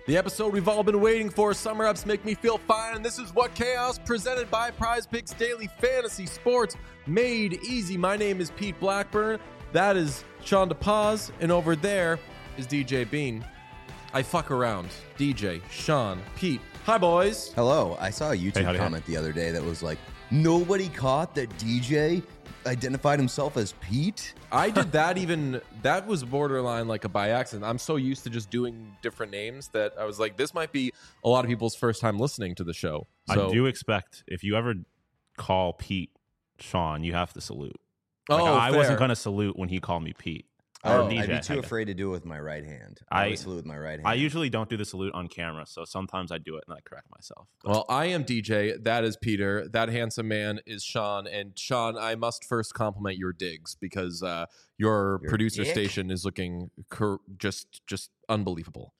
The episode we've all been waiting for. Summer ups make me feel fine, and this is What Chaos, presented by Prize Picks Daily Fantasy Sports, made easy. My name is Pete Blackburn. That is Sean DePaz, and over there is DJ Bean. I fuck around. DJ, Sean, Pete. Hi, boys. Hello. I saw a YouTube comment the other day that was like, nobody caught that DJ identified himself as Pete? I did that that was borderline like a by accident. I'm so used to just doing different names that I was like, this might be a lot of people's first time listening to the show. So, I do expect if you ever call Pete Sean, you have to salute. I wasn't going to salute when he called me Pete. I'd be too afraid to do it with my right hand. I salute with my right hand. I usually don't do the salute on camera, so sometimes I do it and I correct myself. Well, I am DJ. That is Peter. That handsome man is Sean. And Sean, I must first compliment your digs because your producer station is looking just unbelievable.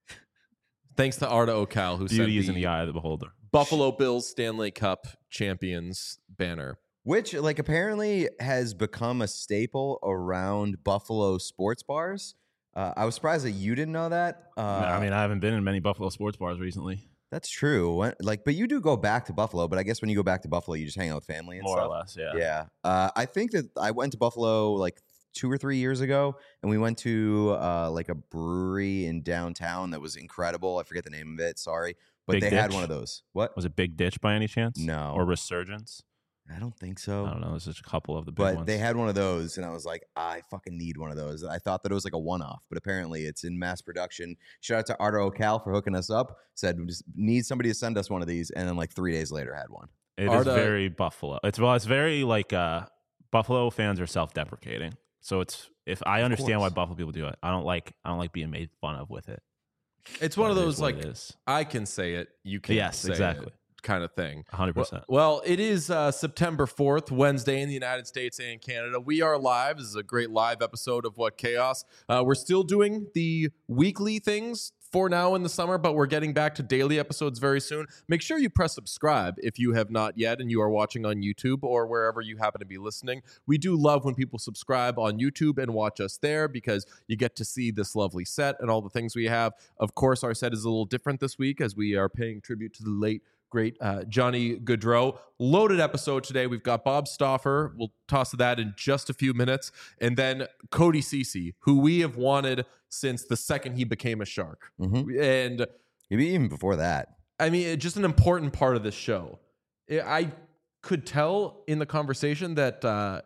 Thanks to Arda Ocal, who beauty is sent in the eye of the beholder. Buffalo Bills Stanley Cup champions banner. Which, apparently has become a staple around Buffalo sports bars. I was surprised that you didn't know that. I haven't been in many Buffalo sports bars recently. That's true. But you do go back to Buffalo. But I guess when you go back to Buffalo, you just hang out with family and More stuff. More or less, yeah. Yeah. I think that I went to Buffalo 2 or 3 years ago, and we went to a brewery in downtown that was incredible. I forget the name of it. Sorry. But Big they Ditch? had one of those. What? Was it Big Ditch by any chance? No. Or Resurgence? I don't think so. I don't know. There's just a couple of the big but ones. They had one of those, and I was like, I fucking need one of those. I thought that it was like a one-off, but apparently it's in mass production. Shout out to Arda Ocal for hooking us up. Said, we just need somebody to send us one of these, and then 3 days later had one. It is very Buffalo. It's very Buffalo fans are self-deprecating. So if I understand why Buffalo people do it, I don't like being made fun of with it. It's one of those I can say it, you can't say exactly. it kind of thing. 100%. Well, it is September 4th, Wednesday in the United States and Canada. We are live. This is a great live episode of What Chaos. We're still doing the weekly things for now in the summer, but we're getting back to daily episodes very soon. Make sure you press subscribe if you have not yet and you are watching on YouTube or wherever you happen to be listening. We do love when people subscribe on YouTube and watch us there because you get to see this lovely set and all the things we have. Of course, our set is a little different this week as we are paying tribute to the late great Johnny Gaudreau. Loaded episode today. We've got Bob Stauffer. We'll toss to that in just a few minutes. And then Cody Ceci, who we have wanted since the second he became a Shark. Mm-hmm. And maybe even before that. I mean, just an important part of this show. I could tell in the conversation that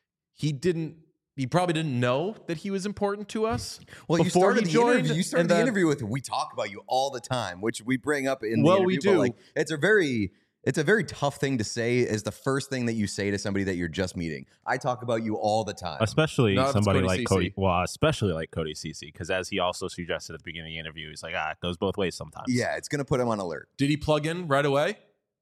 he probably didn't know that he was important to us. Well, you started the interview with, we talk about you all the time, which we bring up in the interview. We do. But it's a very tough thing to say as the first thing that you say to somebody that you're just meeting. I talk about you all the time. Especially somebody like Cody. Well, especially like Cody Ceci, because as he also suggested at the beginning of the interview, he's like, it goes both ways sometimes. Yeah, it's going to put him on alert. Did he plug in right away?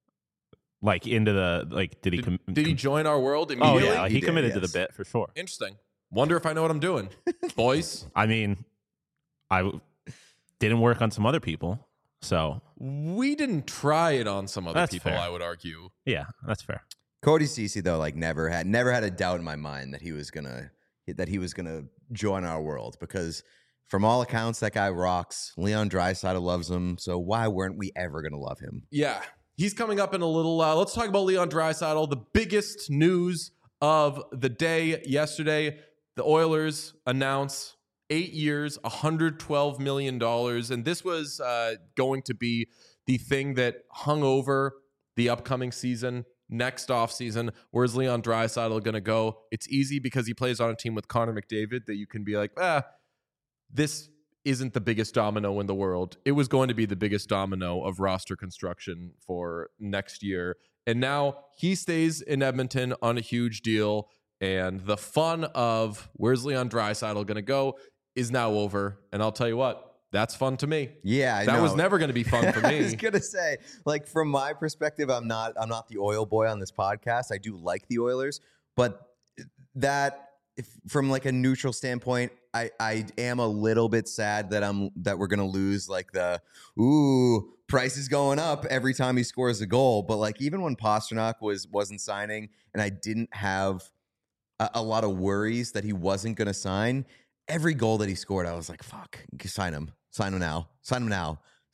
Did he join our world immediately? Oh, yeah. He committed to the bit for sure. Interesting. Wonder if I know what I'm doing, boys. I mean, I didn't work on some other people, so we didn't try it on some other people. Fair. I would argue. Yeah, that's fair. Cody Ceci though, never had a doubt in my mind that he was gonna join our world because from all accounts that guy rocks. Leon Draisaitl loves him, so why weren't we ever gonna love him? Yeah, he's coming up in a little. Let's talk about Leon Draisaitl. The biggest news of the day yesterday. The Oilers announce 8 years, $112 million. And this was going to be the thing that hung over the upcoming season, next offseason. Where's Leon Draisaitl going to go? It's easy because he plays on a team with Connor McDavid that you can be like, this isn't the biggest domino in the world. It was going to be the biggest domino of roster construction for next year. And now he stays in Edmonton on a huge deal. And the fun of where's Leon Draisaitl going to go is now over. And I'll tell you what, that's fun to me. Yeah, that was never going to be fun for me. I was going to say, from my perspective, I'm not the oil boy on this podcast. I do like the Oilers, but from a neutral standpoint, I am a little bit sad that we're going to lose Price is going up every time he scores a goal. But even when Pastrnak wasn't signing and I didn't have a lot of worries that he wasn't going to sign, every goal that he scored, I was like, fuck, sign him now.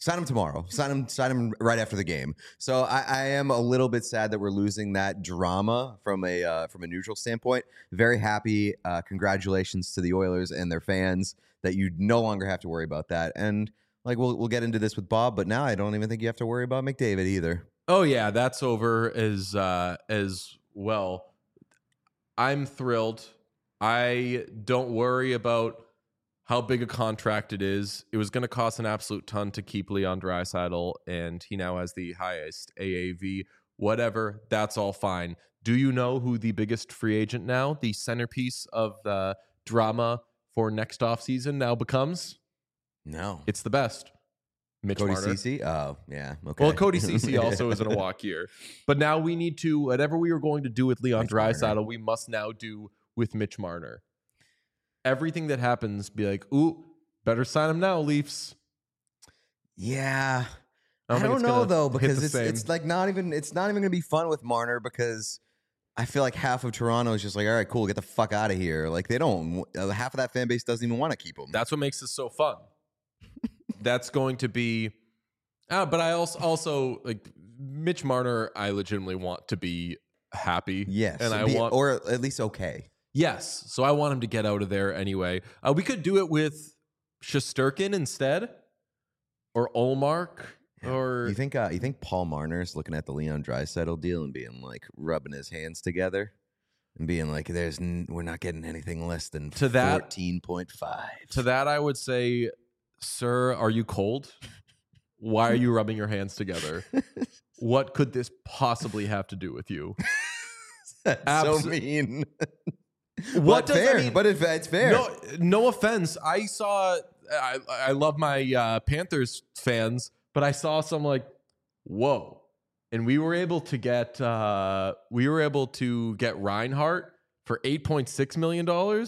Sign him tomorrow. Sign him right after the game. So I am a little bit sad that we're losing that drama from a neutral standpoint. Very happy. Congratulations to the Oilers and their fans that you no longer have to worry about that. And like we'll get into this with Bob, but now I don't even think you have to worry about McDavid either. Oh yeah, that's over as well. I'm thrilled. I don't worry about how big a contract it is. It was going to cost an absolute ton to keep Leon Draisaitl, and he now has the highest AAV. Whatever, that's all fine. Do you know who the biggest free agent now, the centerpiece of the drama for next offseason now becomes? No. It's the best. Mitch Cody Marner. Ceci? Oh, yeah. Okay. Well, Cody Ceci also is in a walk year. But now we need to, whatever we were going to do with Leon Draisaitl, we must now do with Mitch Marner. Everything that happens, be like, ooh, better sign him now, Leafs. Yeah. I don't know though, because it's like not even going to be fun with Marner, because I feel like half of Toronto is just like, all right, cool, get the fuck out of here. Like they don't, half of that fan base doesn't even want to keep him. That's what makes this so fun. That's going to be, but I also like Mitch Marner. I legitimately want to be happy. Yes, and or at least okay. Yes, so I want him to get out of there anyway. We could do it with Shesterkin instead, or Ullmark, or you think Paul Marner's looking at the Leon Draisaitl deal and being like rubbing his hands together and being like, we're not getting anything less than 14.5. To that, I would say, sir, are you cold? Why are you rubbing your hands together? What could this possibly have to do with you? That's so mean. What does fair? I mean, but it's fair. No offense. I love my Panthers fans, but I saw some like, whoa, and we were able to get Reinhart for $8.6 million.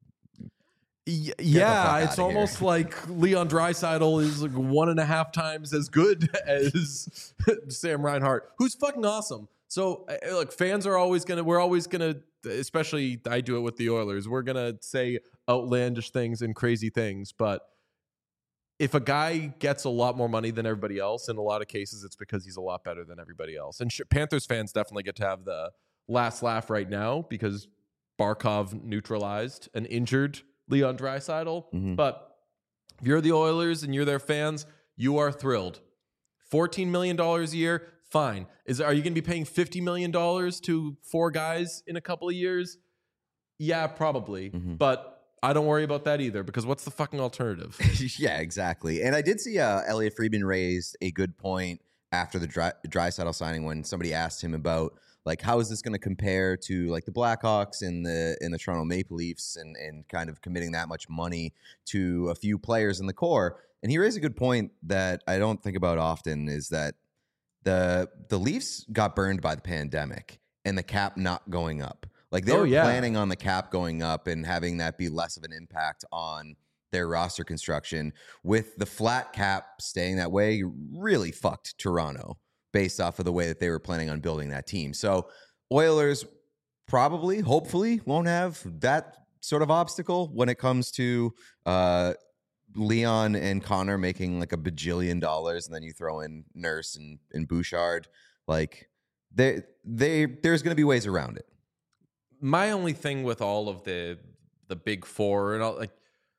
Yeah, it's almost like Leon Draisaitl is like 1.5 times as good as Sam Reinhart, who's fucking awesome. So look, fans are we're always gonna, especially I do it with the Oilers, we're gonna say outlandish things and crazy things. But if a guy gets a lot more money than everybody else, in a lot of cases, it's because he's a lot better than everybody else. And Panthers fans definitely get to have the last laugh right now because Barkov neutralized an injured Leon Draisaitl. Mm-hmm. But if you're the Oilers and you're their fans, you are thrilled. $14 million a year, fine. Are you going to be paying $50 million to 4 guys in a couple of years? Yeah, probably. Mm-hmm. But I don't worry about that either, because what's the fucking alternative? Yeah, exactly. And I did see Elliot Friedman raised a good point after the Draisaitl signing when somebody asked him about, like, how is this going to compare to like the Blackhawks and the Toronto Maple Leafs and kind of committing that much money to a few players in the core? And he raised a good point that I don't think about often, is that the Leafs got burned by the pandemic and the cap not going up. Like they were planning on the cap going up and having that be less of an impact on their roster construction. With the flat cap staying that way, really fucked Toronto based off of the way that they were planning on building that team. So Oilers probably, hopefully, won't have that sort of obstacle when it comes to Leon and Connor making like $1 bajillion, and then you throw in Nurse and Bouchard. Like there's going to be ways around it. My only thing with all of the big four and all, like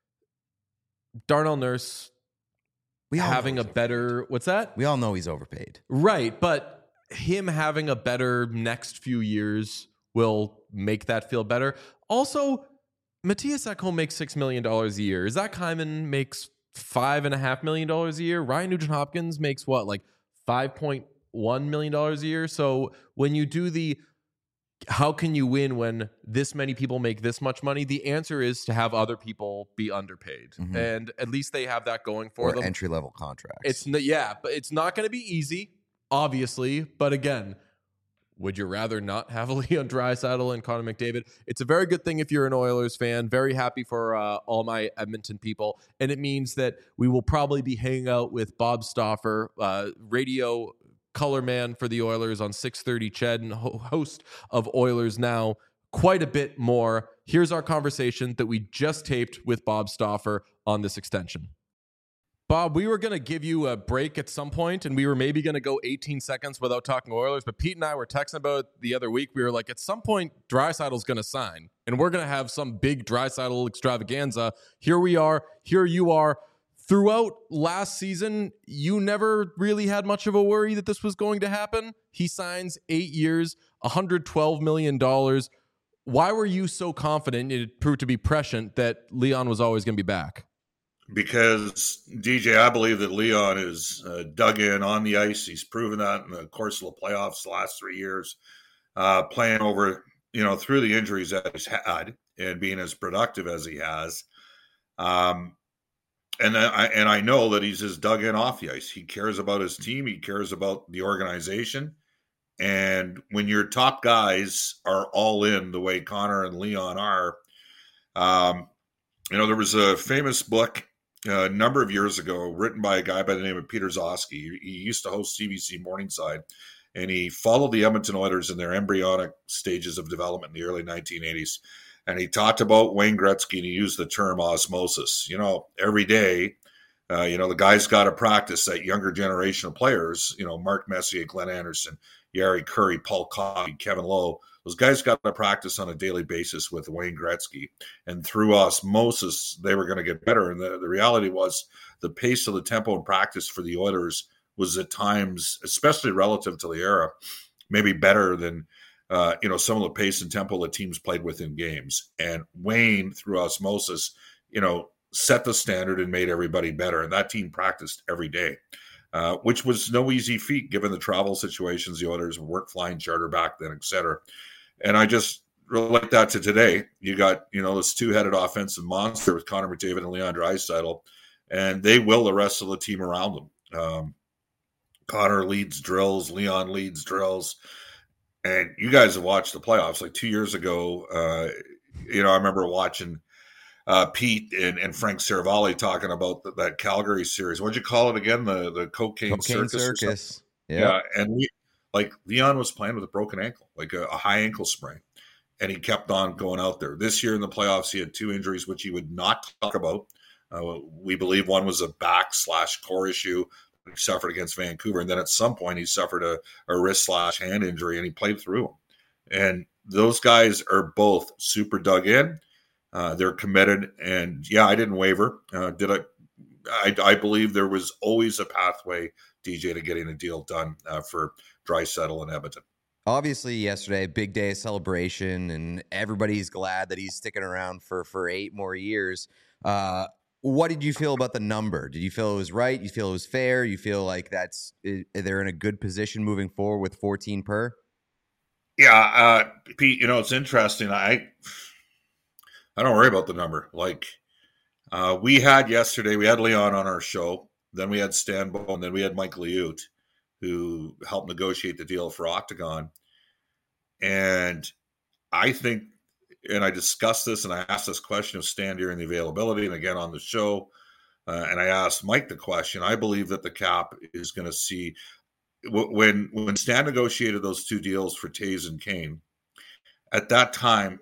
Darnell Nurse having a better, what's that? We all know he's overpaid. Right, but him having a better next few years will make that feel better. Also, Matthias Ekholm makes $6 million a year. Zach Hyman makes $5.5 million a year. Ryan Nugent-Hopkins makes what, like $5.1 million a year? So when you do the how can you win when this many people make this much money? The answer is to have other people be underpaid. Mm-hmm. And at least they have that going for them. Entry-level contracts. But it's not going to be easy, obviously. But again, would you rather not have Leon Draisaitl and Connor McDavid? It's a very good thing if you're an Oilers fan. Very happy for all my Edmonton people. And it means that we will probably be hanging out with Bob Stauffer, radio color man for the Oilers on 630 Ched and host of Oilers Now, quite a bit more. Here's our conversation that we just taped with Bob Stauffer on this extension. Bob, we were going to give you a break at some point, and we were maybe going to go 18 seconds without talking Oilers. But Pete and I were texting about it the other week. We were like, at some point, Draisaitl's going to sign, and we're going to have some big Draisaitl extravaganza. Here we are. Here you are. Throughout last season, you never really had much of a worry that this was going to happen. He signs 8 years, $112 million. Why were you so confident, it proved to be prescient, that Leon was always going to be back? Because, DJ, I believe that Leon is dug in on the ice. He's proven that in the course of the playoffs the last 3 years, playing over, through the injuries that he's had and being as productive as he has. And I know that he's just dug in off the ice. He cares about his team. He cares about the organization. And when your top guys are all in the way Connor and Leon are, there was a famous book a number of years ago written by a guy by the name of Peter Zosky. He used to host CBC Morningside, and he followed the Edmonton Oilers in their embryonic stages of development in the early 1980s. And he talked about Wayne Gretzky, and he used the term osmosis. Every day, the guys got to practice, that younger generation of players, Mark Messier, Glenn Anderson, Yari Curry, Paul Coffey, Kevin Lowe. Those guys got to practice on a daily basis with Wayne Gretzky. And through osmosis, they were going to get better. And the reality was the pace of the tempo and practice for the Oilers was at times, especially relative to the era, maybe better than some of the pace and tempo that teams played with in games. And Wayne, through osmosis, set the standard and made everybody better. And that team practiced every day, which was no easy feat given the travel situations. The Oilers weren't flying charter back then, et cetera. And I just relate that to today. You got, this two-headed offensive monster with Connor McDavid and Leon Draisaitl, and they will the rest of the team around them. Connor leads drills, Leon leads drills. And you guys have watched the playoffs. Like 2 years ago, I remember watching Pete and Frank Saravalli talking about that Calgary series. What'd you call it again? The cocaine circus. Yeah. And Leon was playing with a broken ankle, like a high ankle sprain. And he kept on going out there. This year in the playoffs, he had 2 injuries, which he would not talk about. We believe one was a back/core issue he suffered against Vancouver. And then at some point he suffered a wrist/hand injury, and he played through them. And those guys are both super dug in. They're committed. And yeah, I didn't waver. I believe there was always a pathway, DJ, to getting a deal done for Draisaitl and Edmonton. Obviously, yesterday, big day of celebration, and everybody's glad that he's sticking around for 8 more years. What did you feel about the number? Did you feel it was right? You feel it was fair? You feel like they're in a good position moving forward with 14 per? Yeah, Pete, it's interesting. I don't worry about the number. We had Leon on our show. Then we had Stan Bowen, and then we had Mike Liut, who helped negotiate the deal for Octagon. And I think, and I discussed this, and I asked this question of Stan during the availability and again on the show, and I asked Mike the question. I believe that the cap is going to see, when Stan negotiated those 2 deals for Taves and Kane, at that time,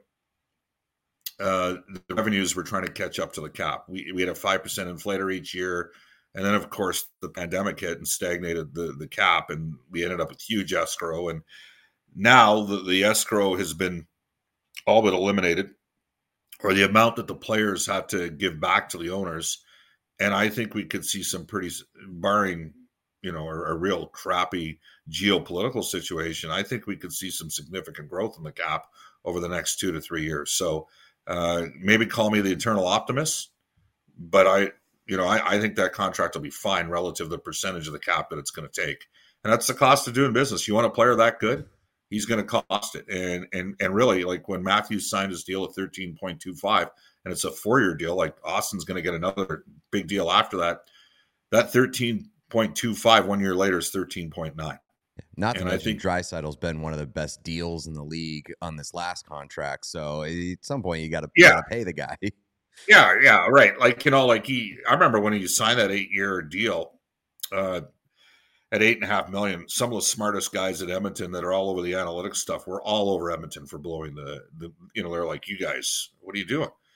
the revenues were trying to catch up to the cap. We had a 5% inflator each year. And then, of course, the pandemic hit and stagnated the cap, and we ended up with huge escrow. And now the escrow has been all but eliminated, or the amount that the players have to give back to the owners. And I think we could see some barring, a real crappy geopolitical situation, I think we could see some significant growth in the cap over the next 2 to 3 years. So maybe call me the eternal optimist, but I think that contract will be fine relative to the percentage of the cap that it's going to take. And that's the cost of doing business. You want a player that good, he's going to cost it. And really, like when Matthews signed his deal at 13.25, and it's a 4-year deal, like Austin's going to get another big deal after that. That 13.25 1 year later is 13.9. Not to mention Draisaitl's been one of the best deals in the league on this last contract. So at some point you got to pay the guy. Yeah, right. I remember when he signed that 8-year deal at $8.5 million. Some of the smartest guys at Edmonton that are all over the analytics stuff were all over Edmonton for blowing the they're like, you guys, what are you doing?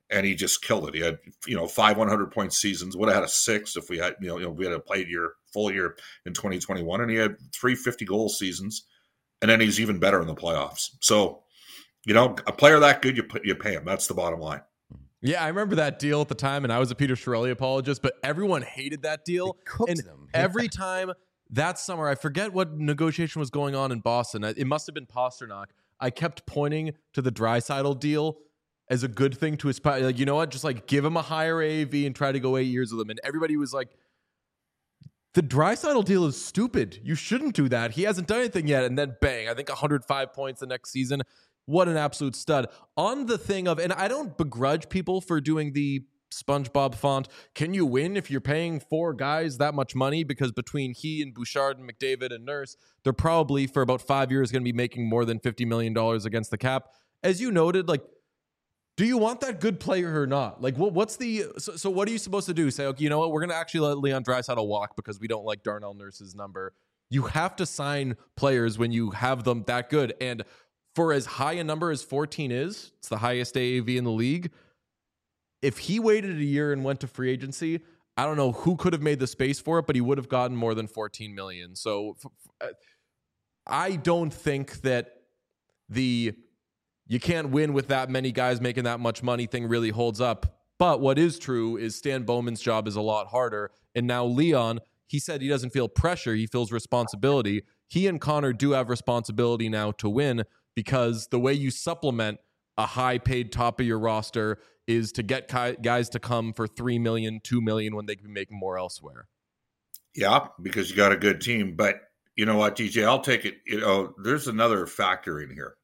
and he just killed it. He had 5 100-point seasons. Would have had a 6 if we had we had a full year in 2021, and he had 3 50-goal seasons, and then he's even better in the playoffs. So, a player that good, you pay him. That's the bottom line. Yeah, I remember that deal at the time, and I was a Peter Chiarelli apologist, but everyone hated that deal. And every time that summer, I forget what negotiation was going on in Boston. It must have been Pastrnak. I kept pointing to the Draisaitl deal as a good thing to aspire. Like, you know what? Just like give him a higher AAV and try to go 8 years with him. And everybody was like, the Draisaitl deal is stupid. You shouldn't do that. He hasn't done anything yet. And then bang, I think 105 points the next season. What an absolute stud. On the thing of, and I don't begrudge people for doing the SpongeBob font. Can you win if you're paying 4 guys that much money? Because between he and Bouchard and McDavid and Nurse, they're probably for about 5 years going to be making more than $50 million against the cap. As you noted, like, do you want that good player or not? Like, what's the so what are you supposed to do? Say, okay, you know what? We're going to actually let Leon Draisaitl walk because we don't like Darnell Nurse's number. You have to sign players when you have them that good. And for as high a number as 14 is, it's the highest AAV in the league. If he waited a year and went to free agency, I don't know who could have made the space for it, but he would have gotten more than 14 million. So I don't think that you can't win with that many guys making that much money thing really holds up. But what is true is Stan Bowman's job is a lot harder. And now Leon, he said he doesn't feel pressure. He feels responsibility. He and Connor do have responsibility now to win, because the way you supplement a high-paid top of your roster is to get guys to come for $3 million, $2 million when they can be making more elsewhere. Yeah, because you got a good team. But you know what, DJ, I'll take it. There's another factor in here.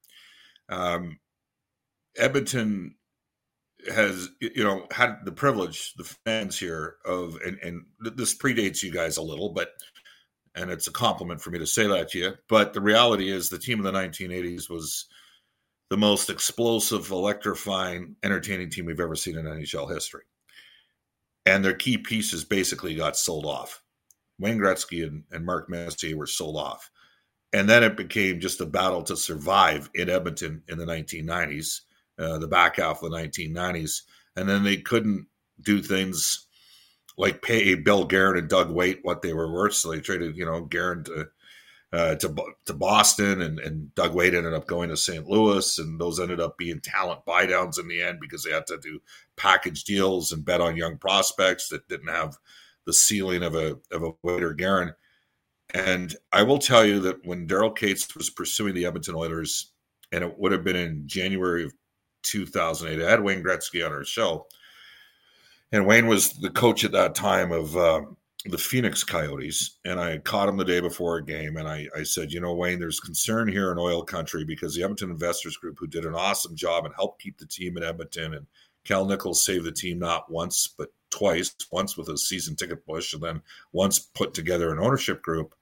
Edmonton has, had the privilege, the fans here of, and this predates you guys a little, and it's a compliment for me to say that to you. But the reality is the team of the 1980s was the most explosive, electrifying, entertaining team we've ever seen in NHL history. And their key pieces basically got sold off. Wayne Gretzky and Mark Messier were sold off. And then it became just a battle to survive in Edmonton in the 1990s, the back half of the 1990s. And then they couldn't do things like pay Bill Guerin and Doug Weight what they were worth. So they traded, Guerin to Boston, and Doug Weight ended up going to St. Louis, and those ended up being talent buydowns in the end because they had to do package deals and bet on young prospects that didn't have the ceiling of a Weight or Guerin. And I will tell you that when Daryl Katz was pursuing the Edmonton Oilers, and it would have been in January of 2008, I had Wayne Gretzky on our show. And Wayne was the coach at that time of the Phoenix Coyotes. And I caught him the day before a game. And I said, Wayne, there's concern here in oil country because the Edmonton Investors Group, who did an awesome job and helped keep the team in Edmonton, and Cal Nichols saved the team not once, but twice, once with a season ticket push and then once put together an ownership group.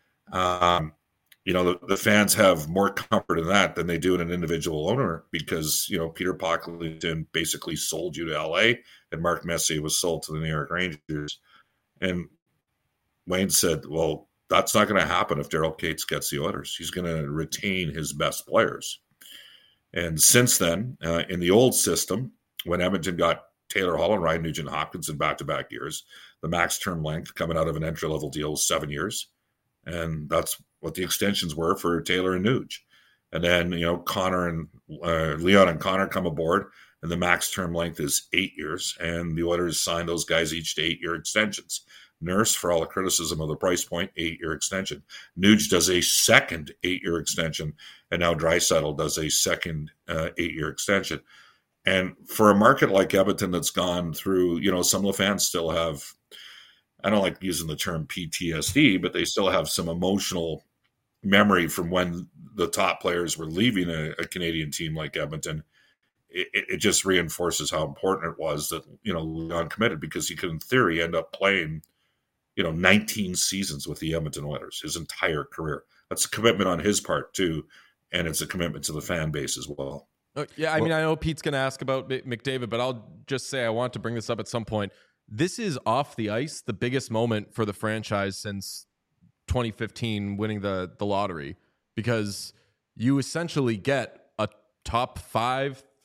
The fans have more comfort in that than they do in an individual owner because, Peter Pocklington basically sold you to LA and Mark Messier was sold to the New York Rangers. And Wayne said, well, that's not going to happen if Daryl Katz gets the Oilers. He's going to retain his best players. And since then, in the old system, when Edmonton got Taylor Hall and Ryan Nugent-Hopkins in back-to-back years, the max term length coming out of an entry-level deal was 7 years. And that's what the extensions were for Taylor and Nuge. And then, Connor and Leon and Connor come aboard, and the max term length is 8 years. And the Oilers signed those guys each to 8-year extensions. Nurse, for all the criticism of the price point, 8-year extension. Nuge does a second 8-year extension, and now Draisaitl does a second 8-year extension. And for a market like Edmonton that's gone through, some of the fans still have, I don't like using the term PTSD, but they still have some emotional memory from when the top players were leaving a Canadian team like Edmonton. It just reinforces how important it was that, Leon committed, because he could, in theory, end up playing, 19 seasons with the Edmonton Oilers, his entire career. That's a commitment on his part, too, and it's a commitment to the fan base as well. Yeah, I mean, I know Pete's going to ask about McDavid, but I'll just say I want to bring this up at some point. This is off the ice, the biggest moment for the franchise since 2015 winning the lottery, because you essentially get a top 5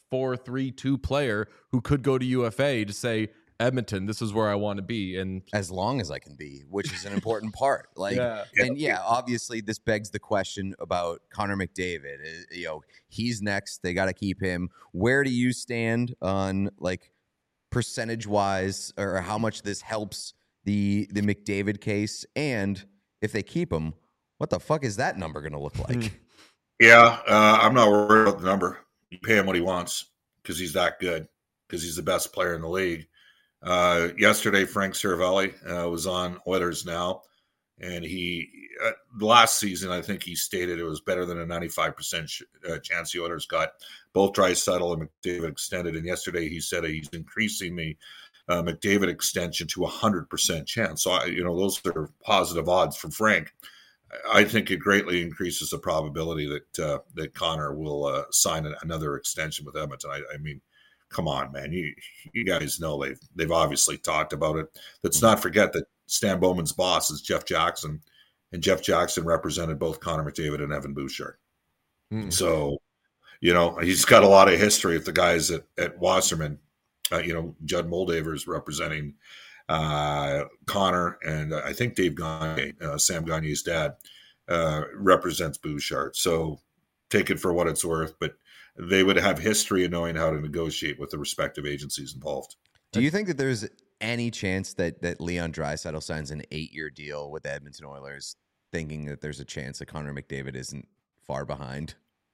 4-3-2 player who could go to UFA to say, Edmonton, this is where I want to be. And as long as I can be, which is an important part. Like, and obviously this begs the question about Connor McDavid. He's next. They got to keep him. Where do you stand on like percentage wise, or how much this helps the McDavid case? And if they keep him, what the fuck is that number going to look like? Yeah, I'm not worried about the number. You pay him what he wants because he's that good, because he's the best player in the league. Yesterday, Frank Cervelli was on Oilers Now, and he last season, I think he stated it was better than a 95% chance the Oilers got both Draisaitl and McDavid extended. And yesterday he said he's increasing the McDavid extension to 100% chance. So, those are positive odds from Frank. I think it greatly increases the probability that Connor will sign another extension with Edmonton. I mean, come on, man. You guys know they've obviously talked about it. Let's not forget that Stan Bowman's boss is Jeff Jackson, and Jeff Jackson represented both Connor McDavid and Evan Bouchard. So, he's got a lot of history with the guys at Wasserman. Judd Moldaver's representing Connor, and I think Dave Gagne, Sam Gagne's dad, represents Bouchard. So take it for what it's worth, but they would have history in knowing how to negotiate with the respective agencies involved. Do you think that there's any chance that Leon Draisaitl signs an 8-year deal with the Edmonton Oilers, thinking that there's a chance that Connor McDavid isn't far behind?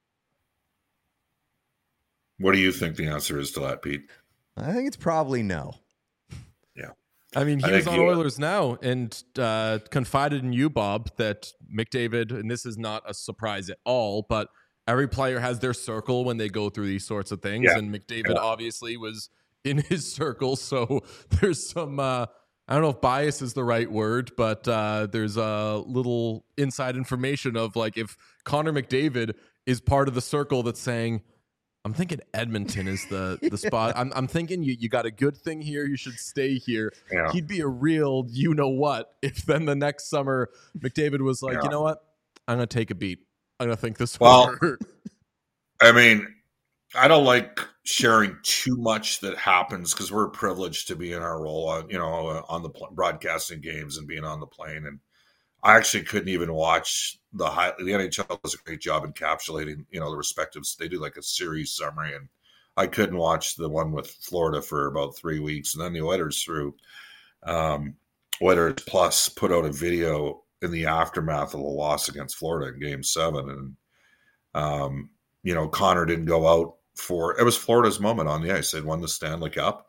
What do you think the answer is to that, Pete? I think it's probably no. Yeah. I mean, he was on Oilers Now and confided in you, Bob, that McDavid, and this is not a surprise at all, but every player has their circle when they go through these sorts of things. Yeah. And McDavid obviously was in his circle. So there's some, I don't know if bias is the right word, but there's a little inside information of like, if Connor McDavid is part of the circle that's saying, I'm thinking Edmonton is the spot. I'm thinking you got a good thing here. You should stay here. Yeah. He'd be a real you-know-what if then the next summer McDavid was like, you know what? I'm going to take a beat. I'm going to think this over. I mean, I don't like sharing too much that happens because we're privileged to be in our role on the broadcasting games and being on the plane. And I actually couldn't even watch the NHL does a great job encapsulating, the respective. They do like a series summary, and I couldn't watch the one with Florida for about 3 weeks. And then the Oilers through Oilers Plus put out a video in the aftermath of the loss against Florida in Game 7, and Connor didn't go out for it was Florida's moment on the ice. They'd won the Stanley Cup.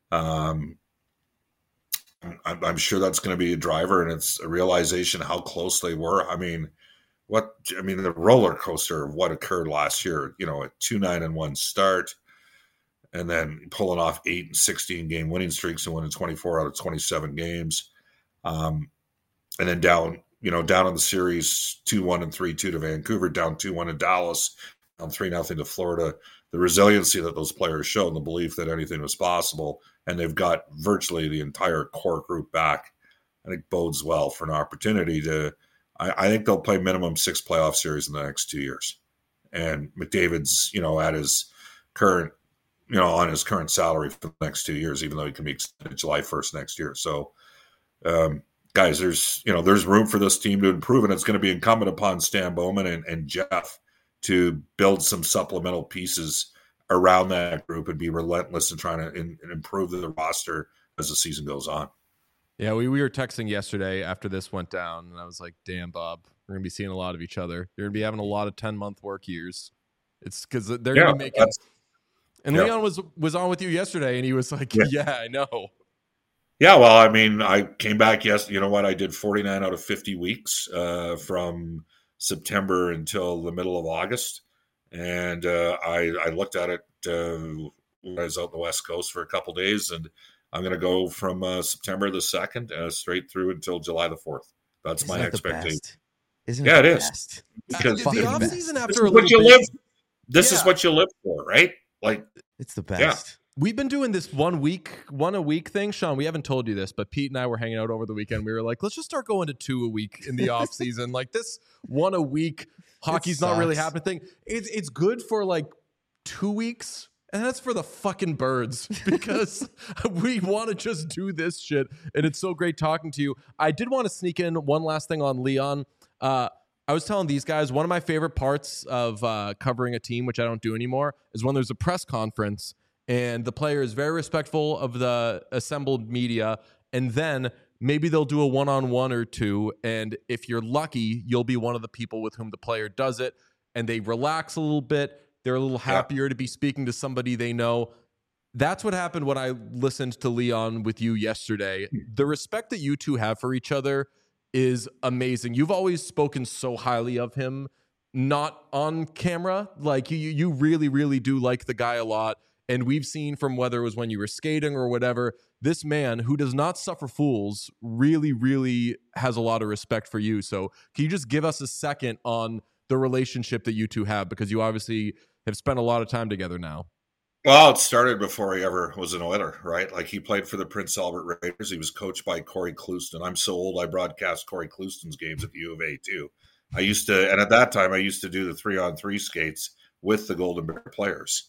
I'm sure that's going to be a driver, and it's a realization how close they were. I mean, the roller coaster of what occurred last year, a 2-9-1 start, and then pulling off 8 and 16 game winning streaks and winning 24 out of 27 games. And then down in the series 2-1 and 3-2 to Vancouver, down 2-1 to Dallas, down 3-0 to Florida. The resiliency that those players show and the belief that anything was possible, and they've got virtually the entire core group back, I think bodes well for an opportunity to I think they'll play minimum 6 playoff series in the next 2 years. And McDavid's, at his current, on his current salary for the next 2 years, even though he can be extended July 1st next year. So, guys, there's room for this team to improve, and it's going to be incumbent upon Stan Bowman and Jeff to build some supplemental pieces around that group and be relentless in trying to improve the roster as the season goes on. Yeah, we were texting yesterday after this went down, and I was like, damn, Bob, we're going to be seeing a lot of each other. You're going to be having a lot of 10-month work years. It's because they're going to be making – and Leon was on with you yesterday, and he was like, yeah, I know. Yeah, well, I mean, I came back yesterday. You know what? I did 49 out of 50 weeks from September until the middle of August. And I looked at it when I was out on the West Coast for a couple of days, and I'm going to go from September the 2nd straight through until July the 4th. That's my expectation. Isn't it? It is. Because the offseason after a little bit. This is what you live for, right? Like, it's the best. Yeah. We've been doing this one a week thing. Sean, we haven't told you this, but Pete and I were hanging out over the weekend. We were like, let's just start going to 2 a week in the off season. Like this 1 a week hockey's not really happening thing. It's good for like 2 weeks, And that's for the fucking birds because we want to just do this shit. And it's so great talking to you. I did want to sneak in one last thing on Leon. I was telling these guys, one of my favorite parts of covering a team, which I don't do anymore, is when there's a press conference and the player is very respectful of the assembled media. And then maybe they'll do a one-on-one or two. And if you're lucky, you'll be one of the people with whom the player does it. And they relax a little bit. They're a little happier to be speaking to somebody they know. That's what happened when I listened to Leon with you yesterday. The respect that you two have for each other is amazing. You've always spoken so highly of him, not on camera. Like you really, really do like the guy a lot. And we've seen from whether it was when you were skating or whatever, this man who does not suffer fools really, really has a lot of respect for you. So can you just give us a second on the relationship that you two have? Because you obviously have spent a lot of time together now. Well, it started before he ever was an Oiler, right? Like he played for the Prince Albert Raiders. He was coached by Corey Clouston. I'm so old, I broadcast Corey Clouston's games at the U of A too. And at that time, I used to do the 3-on-3 skates with the Golden Bear players.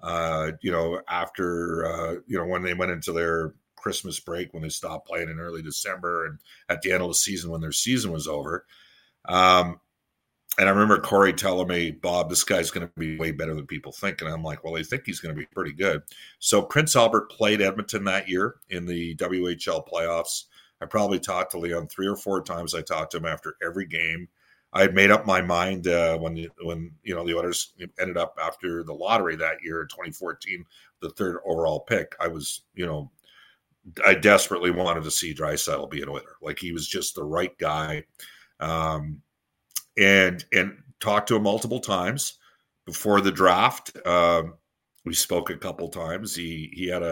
After when they went into their Christmas break, when they stopped playing in early December, and at the end of the season when their season was over. And I remember Corey telling me, Bob, this guy's going to be way better than people think. And I'm like, well, they think he's going to be pretty good. So Prince Albert played Edmonton that year in the WHL playoffs. I probably talked to Leon 3 or 4 times. I talked to him after every game. I had made up my mind when the Oilers ended up after the lottery that year in 2014, the 3rd overall pick. I desperately wanted to see Draisaitl be an Oiler. Like he was just the right guy. And talked to him multiple times before the draft. We spoke a couple times. He had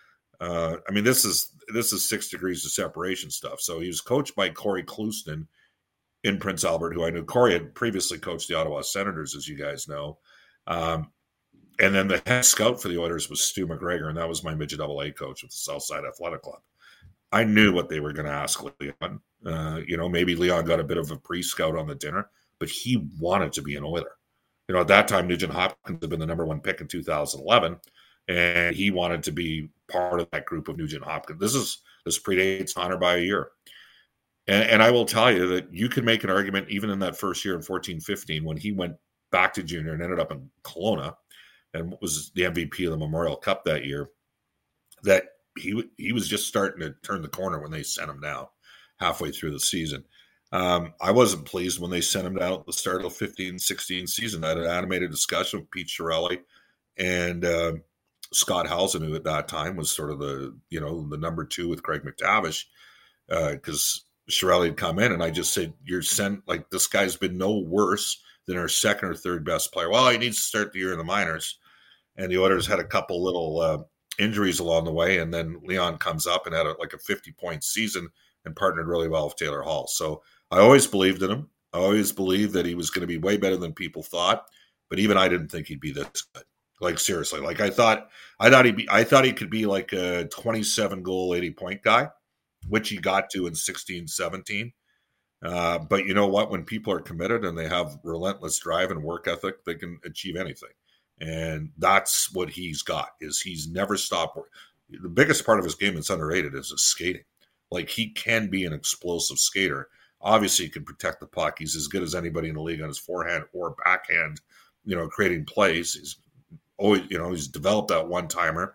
this is 6 degrees of separation stuff. So he was coached by Corey Clouston in Prince Albert, who I knew. Corey had previously coached the Ottawa Senators, as you guys know. And then the head scout for the Oilers was Stu McGregor, and that was my midget AA coach with the Southside Athletic Club. I knew what they were going to ask Leon. Maybe Leon got a bit of a pre-scout on the dinner, but he wanted to be an Oiler. At that time, Nugent Hopkins had been the number 1 pick in 2011, and he wanted to be part of that group of Nugent Hopkins. This predates Honor by a year. And I will tell you that you can make an argument even in that first year in 14-15 when he went back to junior and ended up in Kelowna and was the MVP of the Memorial Cup that year, that he was just starting to turn the corner when they sent him down halfway through the season. I wasn't pleased when they sent him down at the start of the 15-16 season. I had an animated discussion with Pete Chiarelli and Scott Housen, who at that time was sort of the number 2 with Craig McTavish, because Chiarelli had come in, and I just said, this guy's been no worse than our 2nd or 3rd best player. Well, he needs to start the year in the minors. And the Oilers had a couple little injuries along the way, and then Leon comes up and had a 50-point season and partnered really well with Taylor Hall. So I always believed in him. I always believed that he was going to be way better than people thought, but even I didn't think he'd be this good. Like seriously, like I thought he could be like a 27-goal, 80-point guy, which he got to in 16-17. But you know what? When people are committed and they have relentless drive and work ethic, they can achieve anything. And that's what he's got, is he's never stopped. The biggest part of his game that's underrated is his skating. Like he can be an explosive skater. Obviously, he can protect the puck. He's as good as anybody in the league on his forehand or backhand, creating plays. He's always, he's developed that one-timer.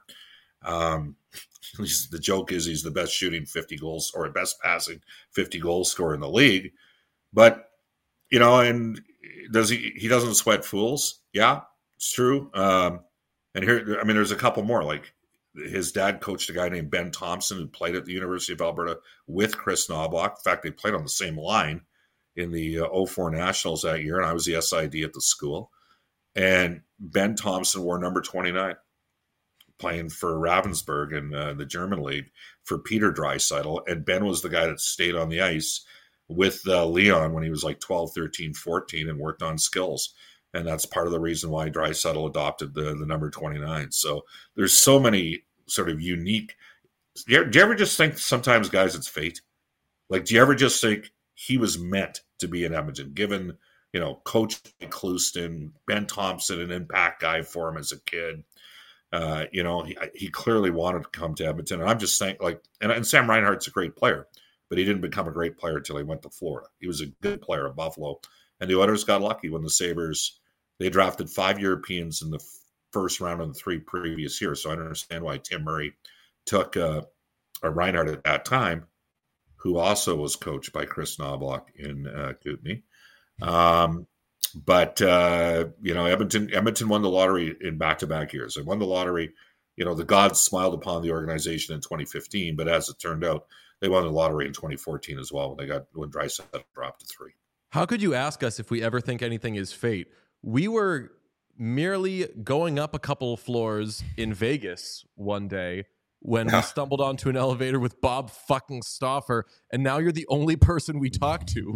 The joke is he's the best shooting 50 goals or best passing 50 goal scorer in the league. But, and he doesn't sweat fools. Yeah, it's true. And here, there's a couple more. Like his dad coached a guy named Ben Thompson who played at the University of Alberta with Chris Knoblauch. In fact, they played on the same line in the 04 Nationals that year, and I was the SID at the school. And Ben Thompson wore number 29, playing for Ravensburg in the German league for Peter Draisaitl. And Ben was the guy that stayed on the ice with Leon when he was like 12, 13, 14 and worked on skills. And that's part of the reason why Draisaitl adopted the number 29. So there's so many sort of unique. Do you ever just think sometimes, guys, it's fate? Like, do you ever just think he was meant to be in Edmonton, given, Coach Clouston, Ben Thompson, an impact guy for him as a kid? He clearly wanted to come to Edmonton. And I'm just saying, and Sam Reinhart's a great player, but he didn't become a great player until he went to Florida. He was a good player at Buffalo. And the Oilers got lucky when the Sabres, they drafted 5 Europeans in the first round of the 3 previous years. So I understand why Tim Murray took a Reinhart at that time, who also was coached by Chris Knobloch in Kootenay. But Edmonton won the lottery in back-to-back years. They won the lottery. The gods smiled upon the organization in 2015, but as it turned out, they won the lottery in 2014 as well when Draisaitl dropped to 3. How could you ask us if we ever think anything is fate? We were merely going up a couple floors in Vegas one day when we stumbled onto an elevator with Bob fucking Stauffer, and now you're the only person we talk to.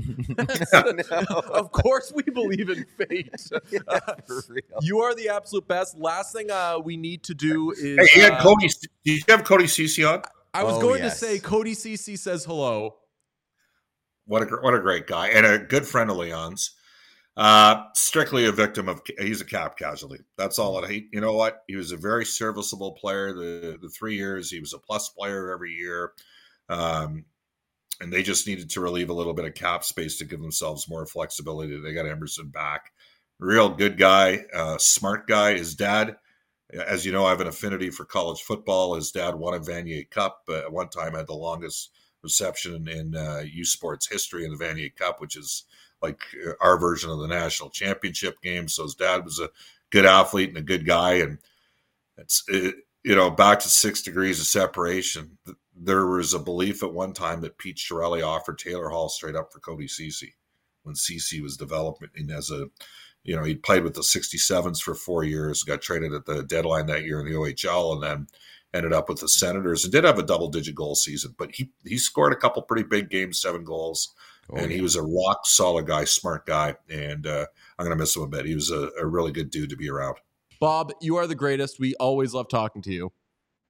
Of course we believe in fate. For real. You are the absolute best. Last thing we need to do is... Hey, you had Cody, did you have Cody Ceci on? I was going to say Cody Ceci says hello. What a great guy, and a good friend of Leon's. Strictly a victim of, he's a cap casualty. That's all it. You know what? He was a very serviceable player. The 3 years, he was a plus player every year. And they just needed to relieve a little bit of cap space to give themselves more flexibility. They got Emerson back. Real good guy, smart guy. His dad, as you know, I have an affinity for college football. His dad won a Vanier Cup. At one time had the longest reception in U Sports history in the Vanier Cup, which is like our version of the national championship game. So his dad was a good athlete and a good guy. And it's, back to 6 degrees of separation. There was a belief at one time that Pete Chiarelli offered Taylor Hall straight up for Cody Ceci when Ceci was developing as a, he played with the 67s for 4 years, got traded at the deadline that year in the OHL, and then ended up with the Senators and did have a double-digit goal season. But he scored a couple pretty big games, 7 goals. He was a rock solid guy, smart guy, and I'm going to miss him a bit. He was a really good dude to be around. Bob, you are the greatest. We always love talking to you.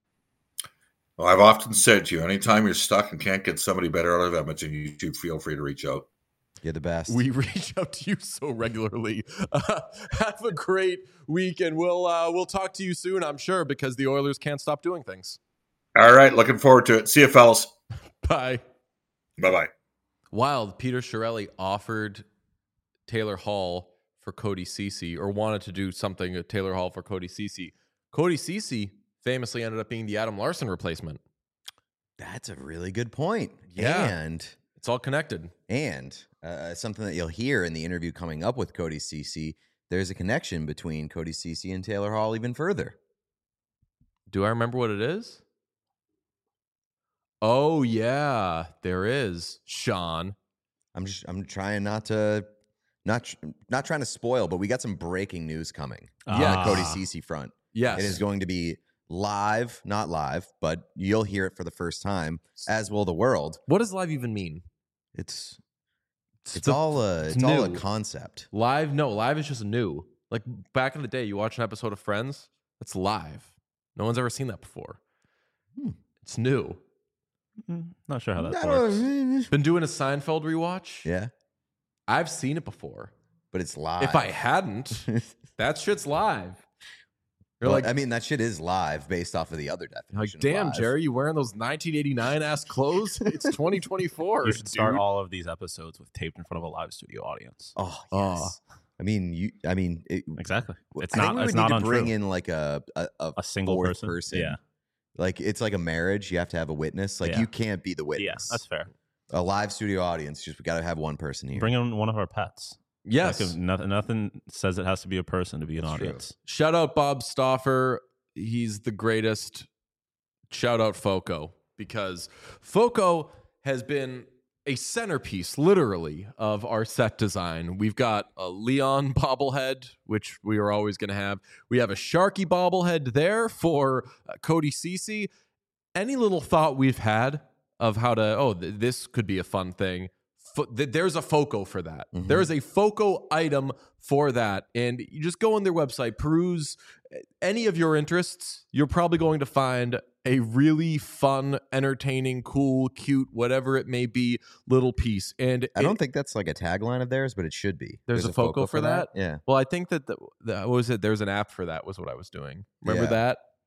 Well, I've often said to you, anytime you're stuck and can't get somebody better out of Edmonton, you should feel free to reach out. You're the best. We reach out to you so regularly. Have a great week, and we'll talk to you soon, I'm sure, because the Oilers can't stop doing things. All right, looking forward to it. See you, fellas. Bye. Bye-bye. Wild. Peter Chiarelli offered Taylor Hall for Cody Ceci, or wanted to do something at Taylor Hall for Cody Ceci. Cody Ceci famously ended up being the Adam Larson replacement. That's a really good point. Yeah. And it's all connected. And something that you'll hear in the interview coming up with Cody Ceci, there's a connection between Cody Ceci and Taylor Hall even further. Do I remember what it is? Oh yeah, there is, Sean. I'm trying not trying to spoil, but we got some breaking news coming. On the Cody Ceci front. Yes. It is going to be live, not live, but you'll hear it for the first time, as will the world. What does live even mean? It's all a concept. Live? No, live is just new. Like back in the day, you watch an episode of Friends, it's live. No one's ever seen that before. It's new. Not sure how that works. Been doing a Seinfeld rewatch. Yeah. I've seen it before. But it's live. If I hadn't, that shit's live. You're well, I mean, that shit is live based off of the other definition. Like, damn, Jerry, you wearing those 1989 ass clothes? It's 2024. You should start all of these episodes with taped in front of a live studio audience. Oh, yes. Exactly. It's I not. think we It's would not need to untrue. bring in like a single fourth person. Yeah. Like it's like a marriage. You have to have a witness. Like you can't be the witness. Yeah, that's fair. A live studio audience. Just we got to have one person here. Bring in one of our pets. Yes. Like nothing says it has to be a person to be an audience. True. Shout out Bob Stauffer. He's the greatest. Shout out Foco, because Foco has been a centerpiece, literally, of our set design. We've got a Leon bobblehead, which we are always going to have. We have a Sharky bobblehead there for Cody Ceci. Any little thought we've had of how to, this could be a fun thing. There's a Foco for that. Mm-hmm. There is a Foco item for that. And you just go on their website, peruse any of your interests. You're probably going to find a really fun, entertaining, cool, cute, whatever it may be, little piece. And I don't think that's like a tagline of theirs, but it should be. There's a Foco for that? Yeah. Well, I think that what was it? There's an app for that was what I was doing. Remember that?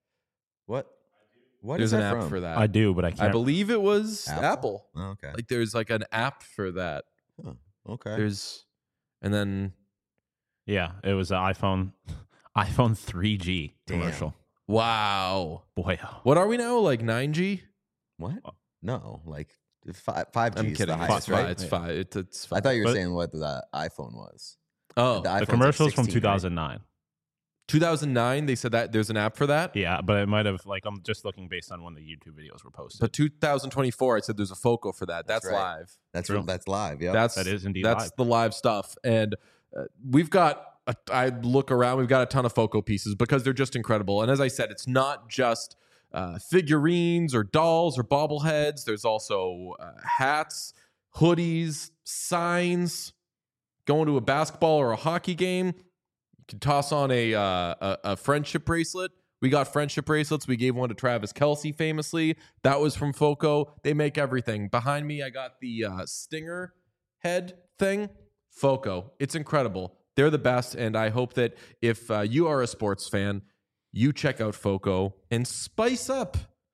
What? What There's is an that app from? for that. I do, but I can't. I believe it was Apple? Apple. Oh, okay. Like there's like an app for that. Okay. And then Yeah, it was an iPhone 3G Damn. commercial. wow. Boy, What are we now? Like 9G? What? No, like 5G I'm is kidding. the It's highest, right? It's five. It's five. I thought you were But- saying what the iPhone was. Oh, The the iPhone's commercial's like from 16, right? 2009. 2009. They said that there's an app for that. Yeah, but it might have I'm just looking based on when the YouTube videos were posted. But 2024, I said there's a FOCO for that. That's That's right. live. That's True. that's live. Yeah. That's That is indeed that's live. the live stuff. And we've got. I look around. We've got a ton of FOCO pieces because they're just incredible. And as I said, it's not just figurines or dolls or bobbleheads. There's also hats, hoodies, signs. Going to a basketball or a hockey game, you can toss on a friendship bracelet. We got friendship bracelets. We gave one to Travis Kelce famously. That was from FOCO. They make everything. Behind me, I got the Stinger head thing. FOCO. It's incredible. They're the best, and I hope that if you are a sports fan, you check out FOCO and spice up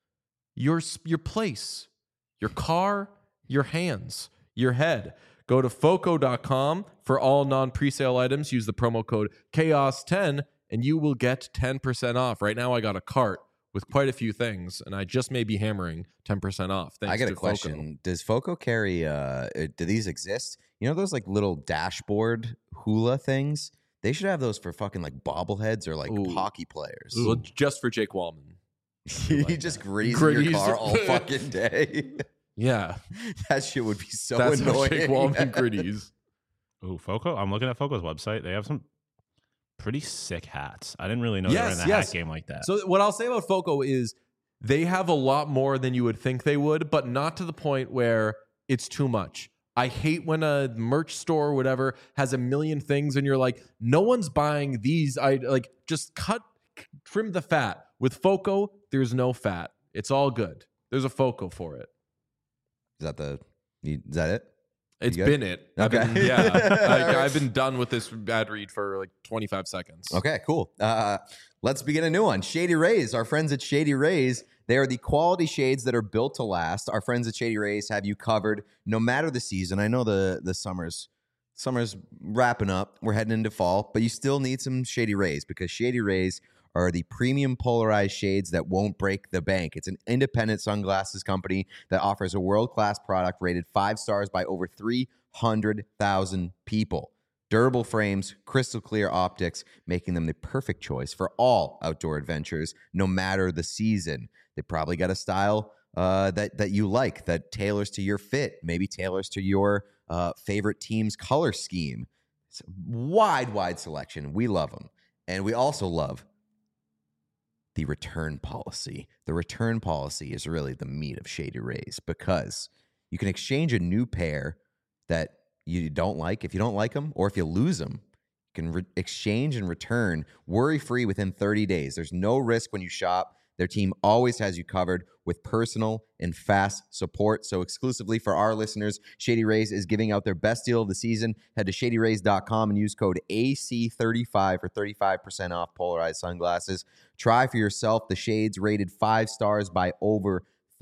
your place, your car, your hands, your head. Go to foco.com for all non-presale items. Use the promo code CHAOS10 and you will get 10% off. Right now I got a cart with quite a few things and I just may be hammering 10% off. Thanks I got to a question. FOCO. Does FOCO carry? Do these exist? You know those like little dashboard hula things? They should have those for fucking like bobbleheads or like Ooh. hockey players. Well, just for Jake Wallman. You just grease Grease. your car all fucking day. Yeah. That shit would be so That's how annoying. Jake Wallman gritties. Ooh, FOCO. I'm looking at FOCO's website. They have some pretty sick hats. I didn't really know they were in the Yes. hat game like that. So what I'll say about FOCO is they have a lot more than you would think they would, but not to the point where it's too much. I hate when a merch store or whatever has a million things and you're like, no one's buying these. I like just trim the fat. With FOCO, there's no fat. It's all good. There's a FOCO for it. Is that it? It's You good? been it. Okay. I've been done with this ad read for like 25 seconds. Okay, cool. Let's begin a new one. Shady Rays, our friends at Shady Rays, they are the quality shades that are built to last. Our friends at Shady Rays have you covered no matter the season. I know the summer's wrapping up. We're heading into fall, but you still need some Shady Rays because Shady Rays are the premium polarized shades that won't break the bank. It's an independent sunglasses company that offers a world-class product rated 5 stars by over 300,000 people. Durable frames, crystal clear optics, making them the perfect choice for all outdoor adventures, no matter the season. They probably got a style that you like, that tailors to your fit, maybe tailors to your favorite team's color scheme. It's a wide selection. We love them. And we also love the return policy. The return policy is really the meat of Shady Rays because you can exchange a new pair that you don't like if you don't like them, or if you lose them, you can exchange and return worry-free within 30 days. There's no risk when you shop. Their team always has you covered with personal and fast support. So exclusively for our listeners, Shady Rays is giving out their best deal of the season. Head to shadyrays.com and use code AC35 for 35% off polarized sunglasses. Try for yourself the shades rated 5 stars by over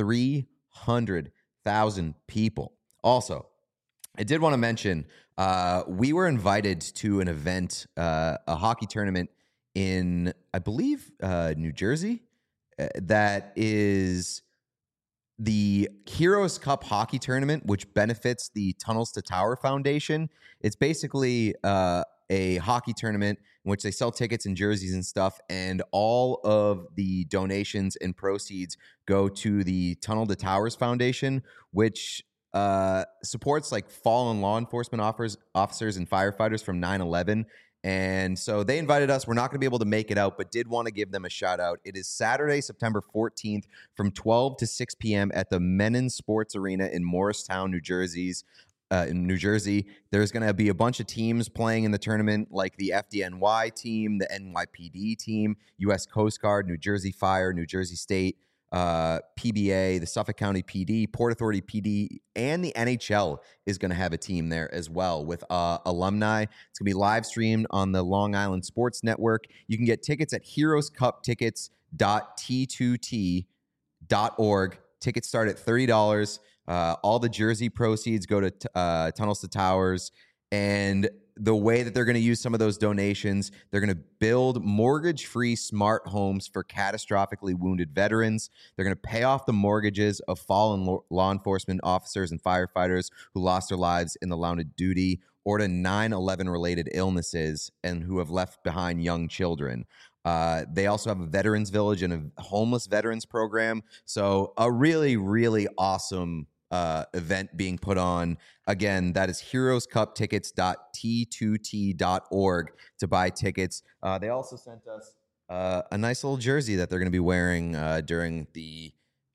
300,000 people. Also, I did want to mention we were invited to an event, a hockey tournament in, I believe, New Jersey. That is the Heroes Cup hockey tournament, which benefits the Tunnels to Tower Foundation. It's basically a hockey tournament in which they sell tickets and jerseys and stuff, and all of the donations and proceeds go to the Tunnel to Towers Foundation, which supports like fallen law enforcement officers and firefighters from 9/11. And so they invited us. We're not going to be able to make it out, but did want to give them a shout out. It is Saturday, September 14th from 12 to 6 p.m. at the Menon Sports Arena in Morristown, New Jersey. There's going to be a bunch of teams playing in the tournament, like the FDNY team, the NYPD team, U.S. Coast Guard, New Jersey Fire, New Jersey State, PBA, the Suffolk County PD, Port Authority PD, and the NHL is going to have a team there as well with alumni. It's going to be live streamed on the Long Island Sports Network. You can get tickets at heroescuptickets.com. tunnels2t.org. Tickets start at $30. All the jersey proceeds go to Tunnels to Towers. And the way that they're going to use some of those donations, they're going to build mortgage-free smart homes for catastrophically wounded veterans. They're going to pay off the mortgages of fallen law enforcement officers and firefighters who lost their lives in the line of duty or to 9/11 related illnesses and who have left behind young children. They also have a veterans village and a homeless veterans program. So a really, really awesome event being put on. Again, that is heroescuptickets.t2t.org to buy tickets. They also sent us a nice little jersey that they're going to be wearing during the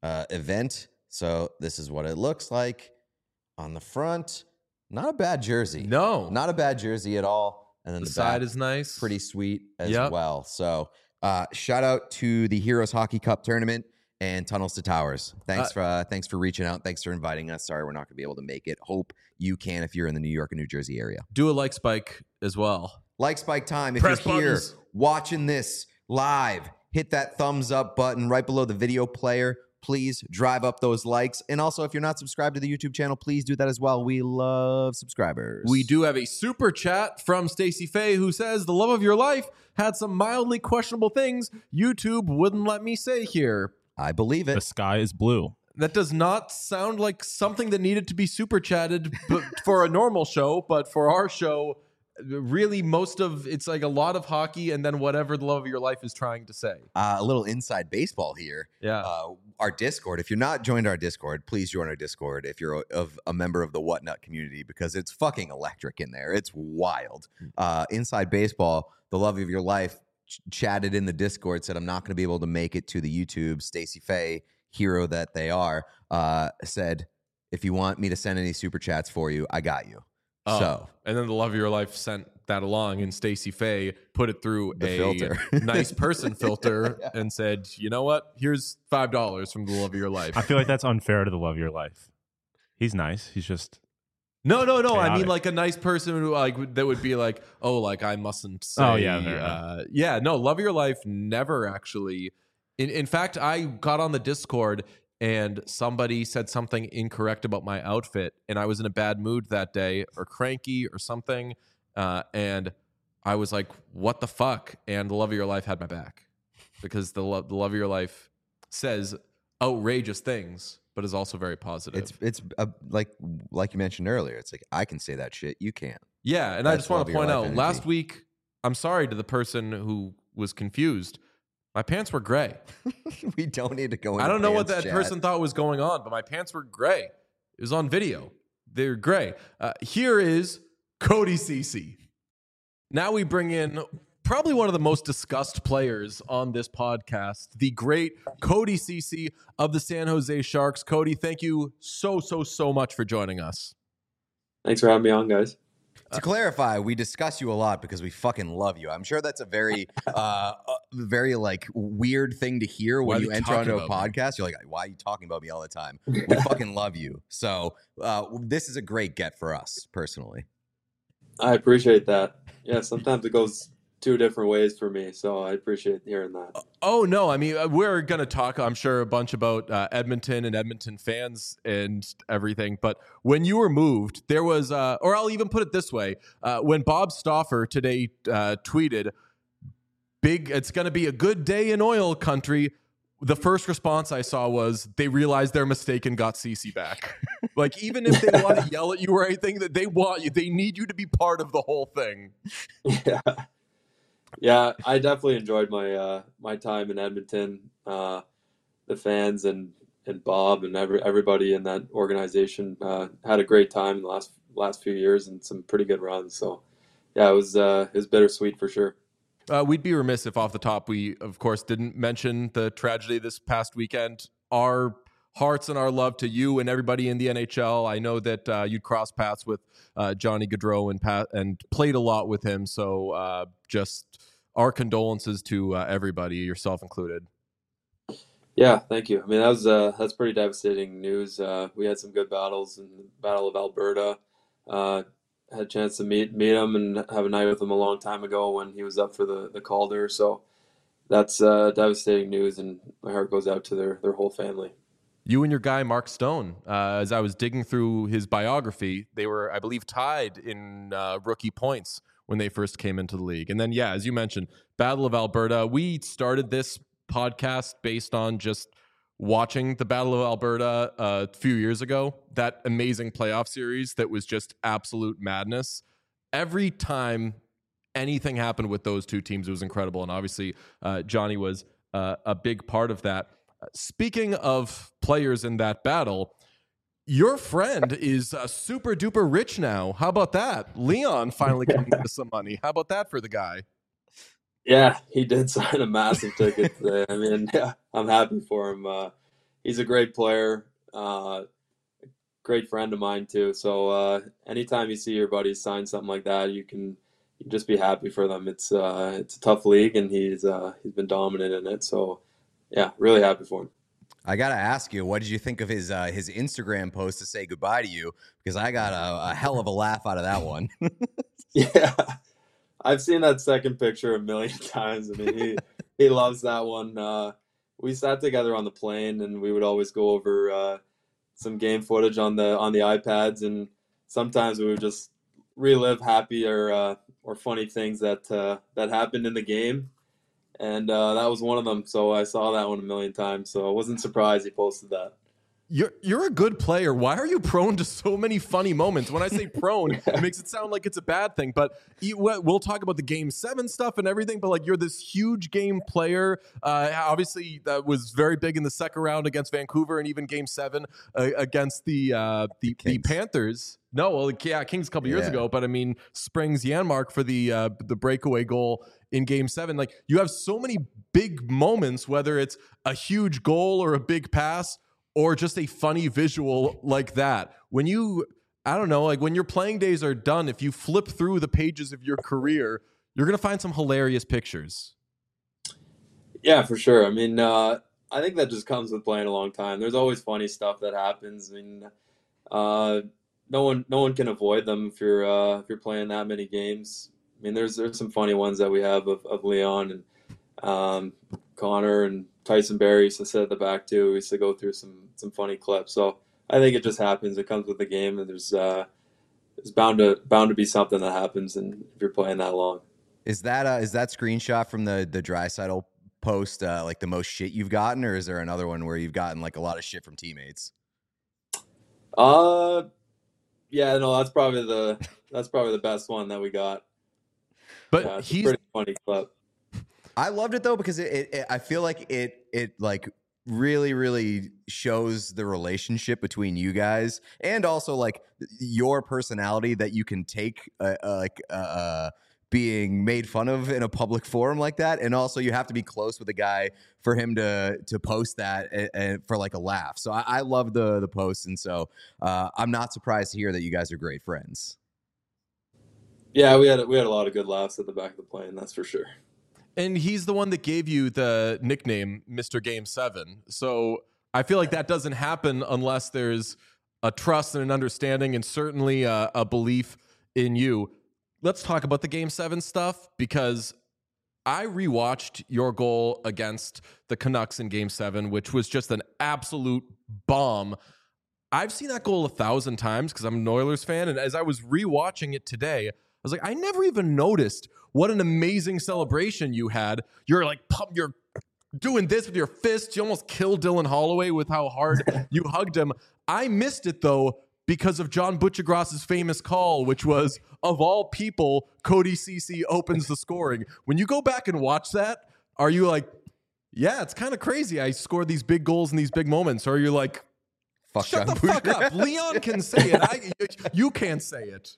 event. So this is what it looks like on the front. Not a bad jersey. No. Not a bad jersey at all. And then The the side back, is nice. pretty sweet as Yep. well. So shout out to the Heroes Hockey Cup tournament and Tunnels to Towers. Thanks for reaching out. Thanks for inviting us. Sorry we're not going to be able to make it. Hope you can if you're in the New York and New Jersey area. Do a like spike as well. Like Spike time. If Press you're here buttons. watching this live, hit that thumbs up button right below the video player. Please drive up those likes. And also, if you're not subscribed to the YouTube channel, please do that as well. We love subscribers. We do have a super chat from Stacey Faye who says, the love of your life had some mildly questionable things YouTube wouldn't let me say here. I believe The it. sky is blue. That does not sound like something that needed to be super chatted for a normal show, but for our show, really most of it's like a lot of hockey and then whatever the love of your life is trying to say. A little inside baseball here. Yeah. Our Discord. If you're not joined our Discord, please join our Discord if you're a member of the Whatnut community because it's fucking electric in there. It's wild. Inside baseball, the love of your life chatted in the Discord, said I'm not going to be able to make it to the YouTube. Stacey Faye, hero that they are, said, if you want me to send any super chats for you, I got you. So and then the love of your life sent that along, and Stacey Faye put it through The a filter. nice person filter and said, "You know what? Here's $5 from the love of your life." I feel like that's unfair to the love of your life. He's nice. He's just No. I mean, Chaotic. like a nice person who like that would be like, "Oh, like I mustn't say." Oh, yeah, fair enough. Yeah. No, love of your life never actually. In fact, I got on the Discord and somebody said something incorrect about my outfit, and I was in a bad mood that day, or cranky, or something, and I was like, "What the fuck?" And the love of your life had my back because the love of your life says outrageous things, but is also very positive. it's like you mentioned earlier. It's like I can say that shit. You can't. Yeah, and I That's just want love to of your point life out, energy. last week, I'm sorry to the person who was confused. My pants were gray. We don't need to go into I don't know what pants that chat. person thought was going on, but my pants were gray. It was on video. They're gray. Here is Cody Ceci. Now we bring in probably one of the most discussed players on this podcast, the great Cody Ceci of the San Jose Sharks. Cody, thank you so much for joining us. Thanks for having me on, guys. To clarify, we discuss you a lot because we fucking love you. I'm sure that's a very, very like weird thing to hear Why when are you you enter talking onto a about me? podcast. You're like, why are you talking about me all the time? We fucking love you. So this is a great get for us personally. I appreciate that. Yeah, sometimes it goes two different ways for me, so I appreciate hearing that. Oh, no. I mean, we're going to talk, I'm sure, a bunch about Edmonton and Edmonton fans and everything. But when you were moved, there was, or I'll even put it this way, when Bob Stauffer today tweeted, it's going to be a good day in oil country. The first response I saw was they realized their mistake and got Ceci back. Like, even if they want to yell at you or anything, that they want you, they need you to be part of the whole thing. Yeah, I definitely enjoyed my my time in Edmonton. The fans and Bob and everybody in that organization had a great time in the last few years and some pretty good runs. So yeah, it was bittersweet for sure. We'd be remiss if off the top we, of course, didn't mention the tragedy this past weekend. Our hearts and our love to you and everybody in the NHL. I know that you'd crossed paths with Johnny Gaudreau and played a lot with him. So just our condolences to everybody, yourself included. Yeah, thank you. I mean, that's pretty devastating news. We had some good battles in the Battle of Alberta. Had a chance to meet him and have a night with him a long time ago when he was up for the Calder. So that's devastating news, and my heart goes out to their whole family. You and your guy, Mark Stone, as I was digging through his biography, they were, I believe, tied in rookie points when they first came into the league. And then, yeah, as you mentioned, Battle of Alberta. We started this podcast based on just watching the Battle of Alberta a few years ago, that amazing playoff series that was just absolute madness. Every time anything happened with those two teams, it was incredible. And obviously, Johnny was a big part of that. Speaking of players in that battle, your friend is super duper rich now. How about that? Leon finally coming into some money. How about that for the guy? Yeah, he did sign a massive ticket today. I mean, yeah, I'm happy for him. He's a great player, great friend of mine too. So anytime you see your buddies sign something like that, you can just be happy for them. It's a tough league, and he's been dominant in it. So yeah, really happy for him. I gotta ask you, what did you think of his Instagram post to say goodbye to you? Because I got a hell of a laugh out of that one. Yeah, I've seen that second picture a million times. I mean, he loves that one. We sat together on the plane, and we would always go over some game footage on the iPads, and sometimes we would just relive happy or funny things that happened in the game. And that was one of them. So I saw that one a million times. So I wasn't surprised he posted that. You're a good player. Why are you prone to so many funny moments? When I say prone, it makes it sound like it's a bad thing. But we'll talk about the Game 7 stuff and everything. But like, you're this huge game player. Obviously, that was very big in the second round against Vancouver, and even Game 7 against the Panthers. No, well, yeah, Kings a couple years ago. But I mean, Springs Janmark for the breakaway goal in Game 7. Like, you have so many big moments, whether it's a huge goal or a big pass, or just a funny visual like that. When I don't know, like when your playing days are done, if you flip through the pages of your career, you're going to find some hilarious pictures. Yeah, for sure. I mean, I think that just comes with playing a long time. There's always funny stuff that happens. I mean, no one can avoid them if you're playing that many games. I mean, there's some funny ones that we have of Leon and Connor and Tyson Barrie used to sit at the back too. We used to go through some funny clips. So I think it just happens. It comes with the game, and there's bound to be something that happens, and if you're playing that long. Is that screenshot from the Draisaitl post like the most shit you've gotten, or is there another one where you've gotten like a lot of shit from teammates? Yeah, no, that's probably the best one that we got. But he's a pretty funny clip. I loved it though, because it I feel like it like really, really shows the relationship between you guys, and also like your personality that you can take being made fun of in a public forum like that. And also you have to be close with a guy for him to post that and for like a laugh. So I love the post. And so I'm not surprised to hear that you guys are great friends. Yeah, we had a lot of good laughs at the back of the plane. That's for sure. And he's the one that gave you the nickname Mr. Game 7. So I feel like that doesn't happen unless there's a trust and an understanding, and certainly a belief in you. Let's talk about the Game 7 stuff, because I rewatched your goal against the Canucks in Game 7, which was just an absolute bomb. I've seen that goal 1,000 times because I'm an Oilers fan, and as I was rewatching it today, I was like, I never even noticed what an amazing celebration you had. You're like, you're doing this with your fists. You almost killed Dylan Holloway with how hard you hugged him. I missed it, though, because of John Butchergross's famous call, which was, of all people, Cody Ceci opens the scoring. When you go back and watch that, are you like, yeah, it's kind of crazy. I scored these big goals in these big moments. Or are you like, shut the fuck up. Leon can say it. You can't say it.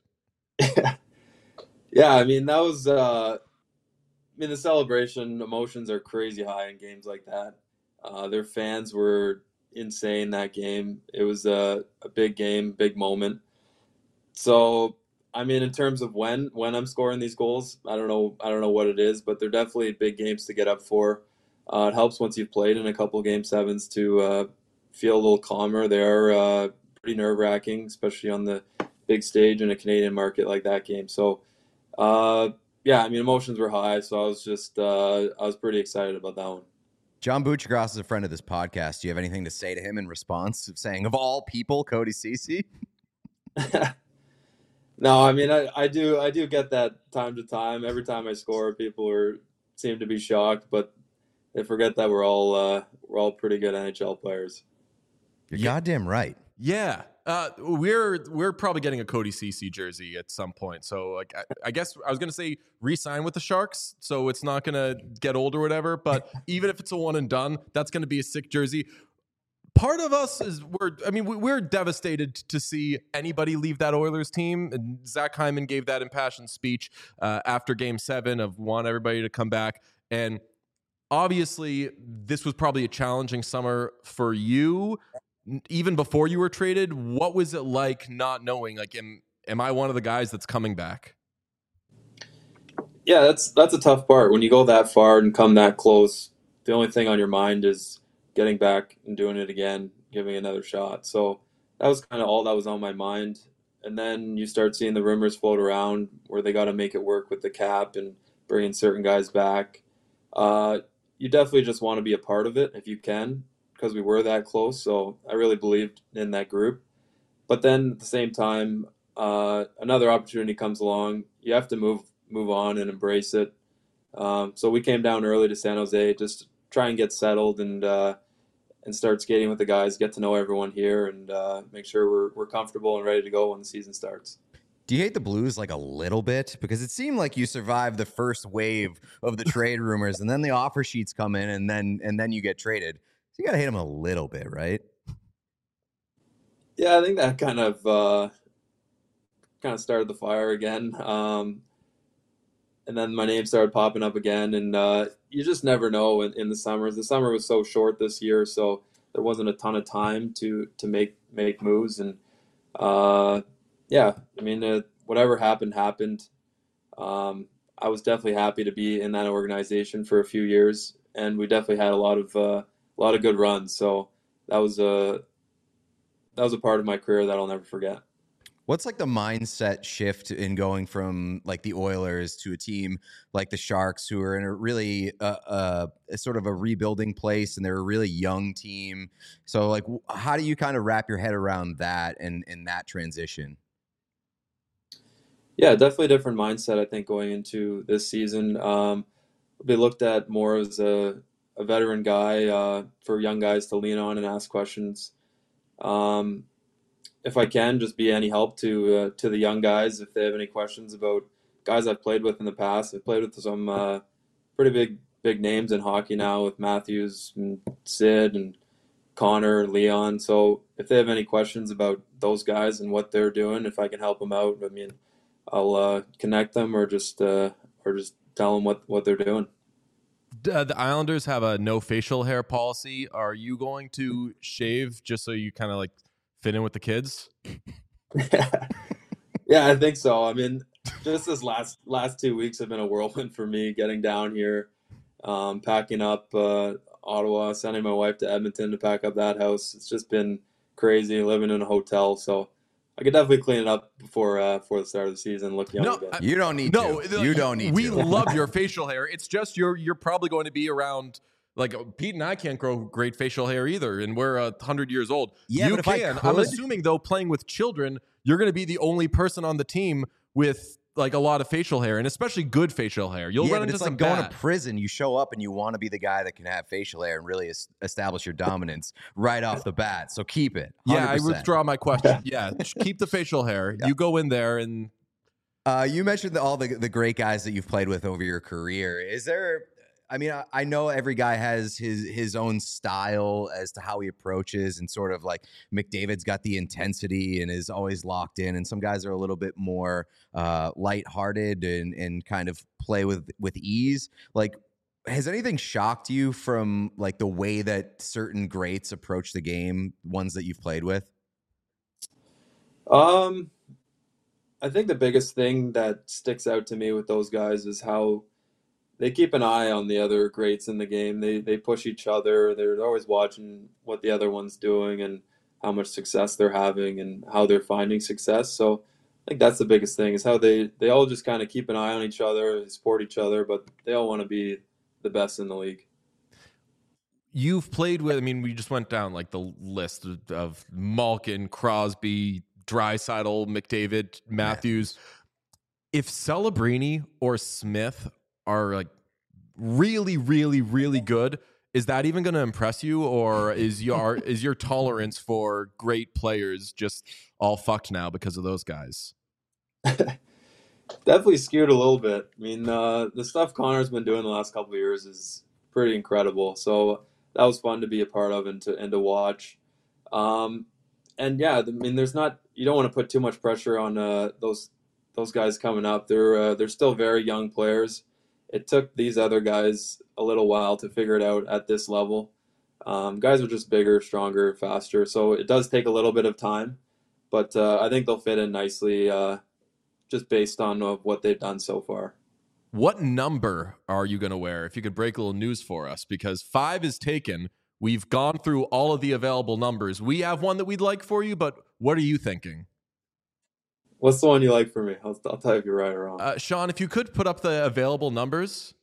Yeah, I mean, that was, the celebration emotions are crazy high in games like that. Their fans were insane that game. It was a big game, big moment. So, I mean, in terms of when I'm scoring these goals, I don't know what it is, but they're definitely big games to get up for. It helps once you've played in a couple Game 7s to feel a little calmer. They are pretty nerve-wracking, especially on the big stage in a Canadian market like that game. So, yeah, I mean, emotions were high, so I was just I was pretty excited about that one. John Buccigross is a friend of this podcast. Do you have anything to say to him in response of saying, of all people, Cody Ceci? No, I mean, I do get that time to time. Every time I score, people seem to be shocked, but they forget that we're all pretty good NHL players. You're goddamn right. Yeah. We're probably getting a Cody Ceci jersey at some point. So like I guess I was gonna say re-sign with the Sharks, so it's not gonna get old or whatever. But even if it's a one and done, that's gonna be a sick jersey. Part of us is we're devastated to see anybody leave that Oilers team. And Zach Hyman gave that impassioned speech after Game 7 of want everybody to come back. And obviously, this was probably a challenging summer for you. Even before you were traded, what was it like not knowing? Like, am I one of the guys that's coming back? Yeah, that's a tough part. When you go that far and come that close, the only thing on your mind is getting back and doing it again, giving another shot. So that was kind of all that was on my mind. And then you start seeing the rumors float around where they got to make it work with the cap and bringing certain guys back. You definitely just want to be a part of it if you can, because we were that close. So I really believed in that group. But then at the same time, another opportunity comes along. You have to move on and embrace it. So we came down early to San Jose just to try and get settled and start skating with the guys, get to know everyone here, and make sure we're comfortable and ready to go when the season starts. Do you hate the Blues like a little bit? Because it seemed like you survived the first wave of the trade rumors, and then the offer sheets come in, and then you get traded. So you gotta hate them a little bit, right? Yeah, I think that kind of started the fire again. And then my name started popping up again, and you just never know in the summers. The summer was so short this year, so there wasn't a ton of time to make moves. And yeah, I mean, whatever happened. I was definitely happy to be in that organization for a few years, and we definitely had a lot of good runs. So that was a part of my career that I'll never forget. What's like the mindset shift in going from like the Oilers to a team like the Sharks, who are in a really sort of a rebuilding place, and they're a really young team? So like, how do you kind of wrap your head around that and that transition? Yeah, definitely a different mindset, I think, going into this season. Be looked at more as a veteran guy for young guys to lean on and ask questions. If I can, just be any help to the young guys if they have any questions about guys I've played with in the past. I've played with some pretty big names in hockey now, with Matthews and Sid and Connor and Leon. So if they have any questions about those guys and what they're doing, if I can help them out, I mean, I'll connect them or just tell them what they're doing. The Islanders have a no facial hair policy. Are you going to shave just so you kind of like fit in with the kids? Yeah, I think so. I mean, just this last 2 weeks have been a whirlwind for me, getting down here, packing up Ottawa, sending my wife to Edmonton to pack up that house. It's just been crazy living in a hotel. So I could definitely clean it up before the start of the season. Look young again. You don't need to. You don't need we to. We love your facial hair. It's just you're probably going to be around. Like Pete and I can't grow great facial hair either, and we're 100 years old. Yeah, you but can. I'm assuming though, playing with children, you're going to be the only person on the team with like a lot of facial hair, and especially good facial hair. You'll run into it's some like going bad. to prison. You show up and you want to be the guy that can have facial hair and really establish your dominance right off the bat. So keep it. 100%. Yeah, I withdraw my question. Yeah, keep the facial hair. Yeah. You go in there and. You mentioned all the great guys that you've played with over your career. Is there? I mean, I know every guy has his own style as to how he approaches, and sort of like McDavid's got the intensity and is always locked in, and some guys are a little bit more lighthearted and kind of play with ease. Like, has anything shocked you from like the way that certain greats approach the game, ones that you've played with? I think the biggest thing that sticks out to me with those guys is how they keep an eye on the other greats in the game. They push each other. They're always watching what the other one's doing and how much success they're having and how they're finding success. So think that's the biggest thing is how they all just kind of keep an eye on each other, support each other, but they all want to be the best in the league. You've played with, I mean, we just went down like the list of Malkin, Crosby, Draisaitl, McDavid, Matthews. If Celebrini or Smith are like really, really, really good, is that even going to impress you, or is your tolerance for great players just all fucked now because of those guys? Definitely skewed a little bit. I mean, the stuff Connor's been doing the last couple of years is pretty incredible. So that was fun to be a part of and to watch. And yeah, I mean, you don't want to put too much pressure on those guys coming up. They're still very young players. It took these other guys a little while to figure it out at this level. Guys are just bigger, stronger, faster. So it does take a little bit of time, but I think they'll fit in nicely just based on what they've done so far. What number are you going to wear? If you could break a little news for us, because 5 is taken. We've gone through all of the available numbers. We have one that we'd like for you, but what are you thinking? What's the one you like for me? I'll tell you if you're right or wrong. Sean, if you could put up the available numbers.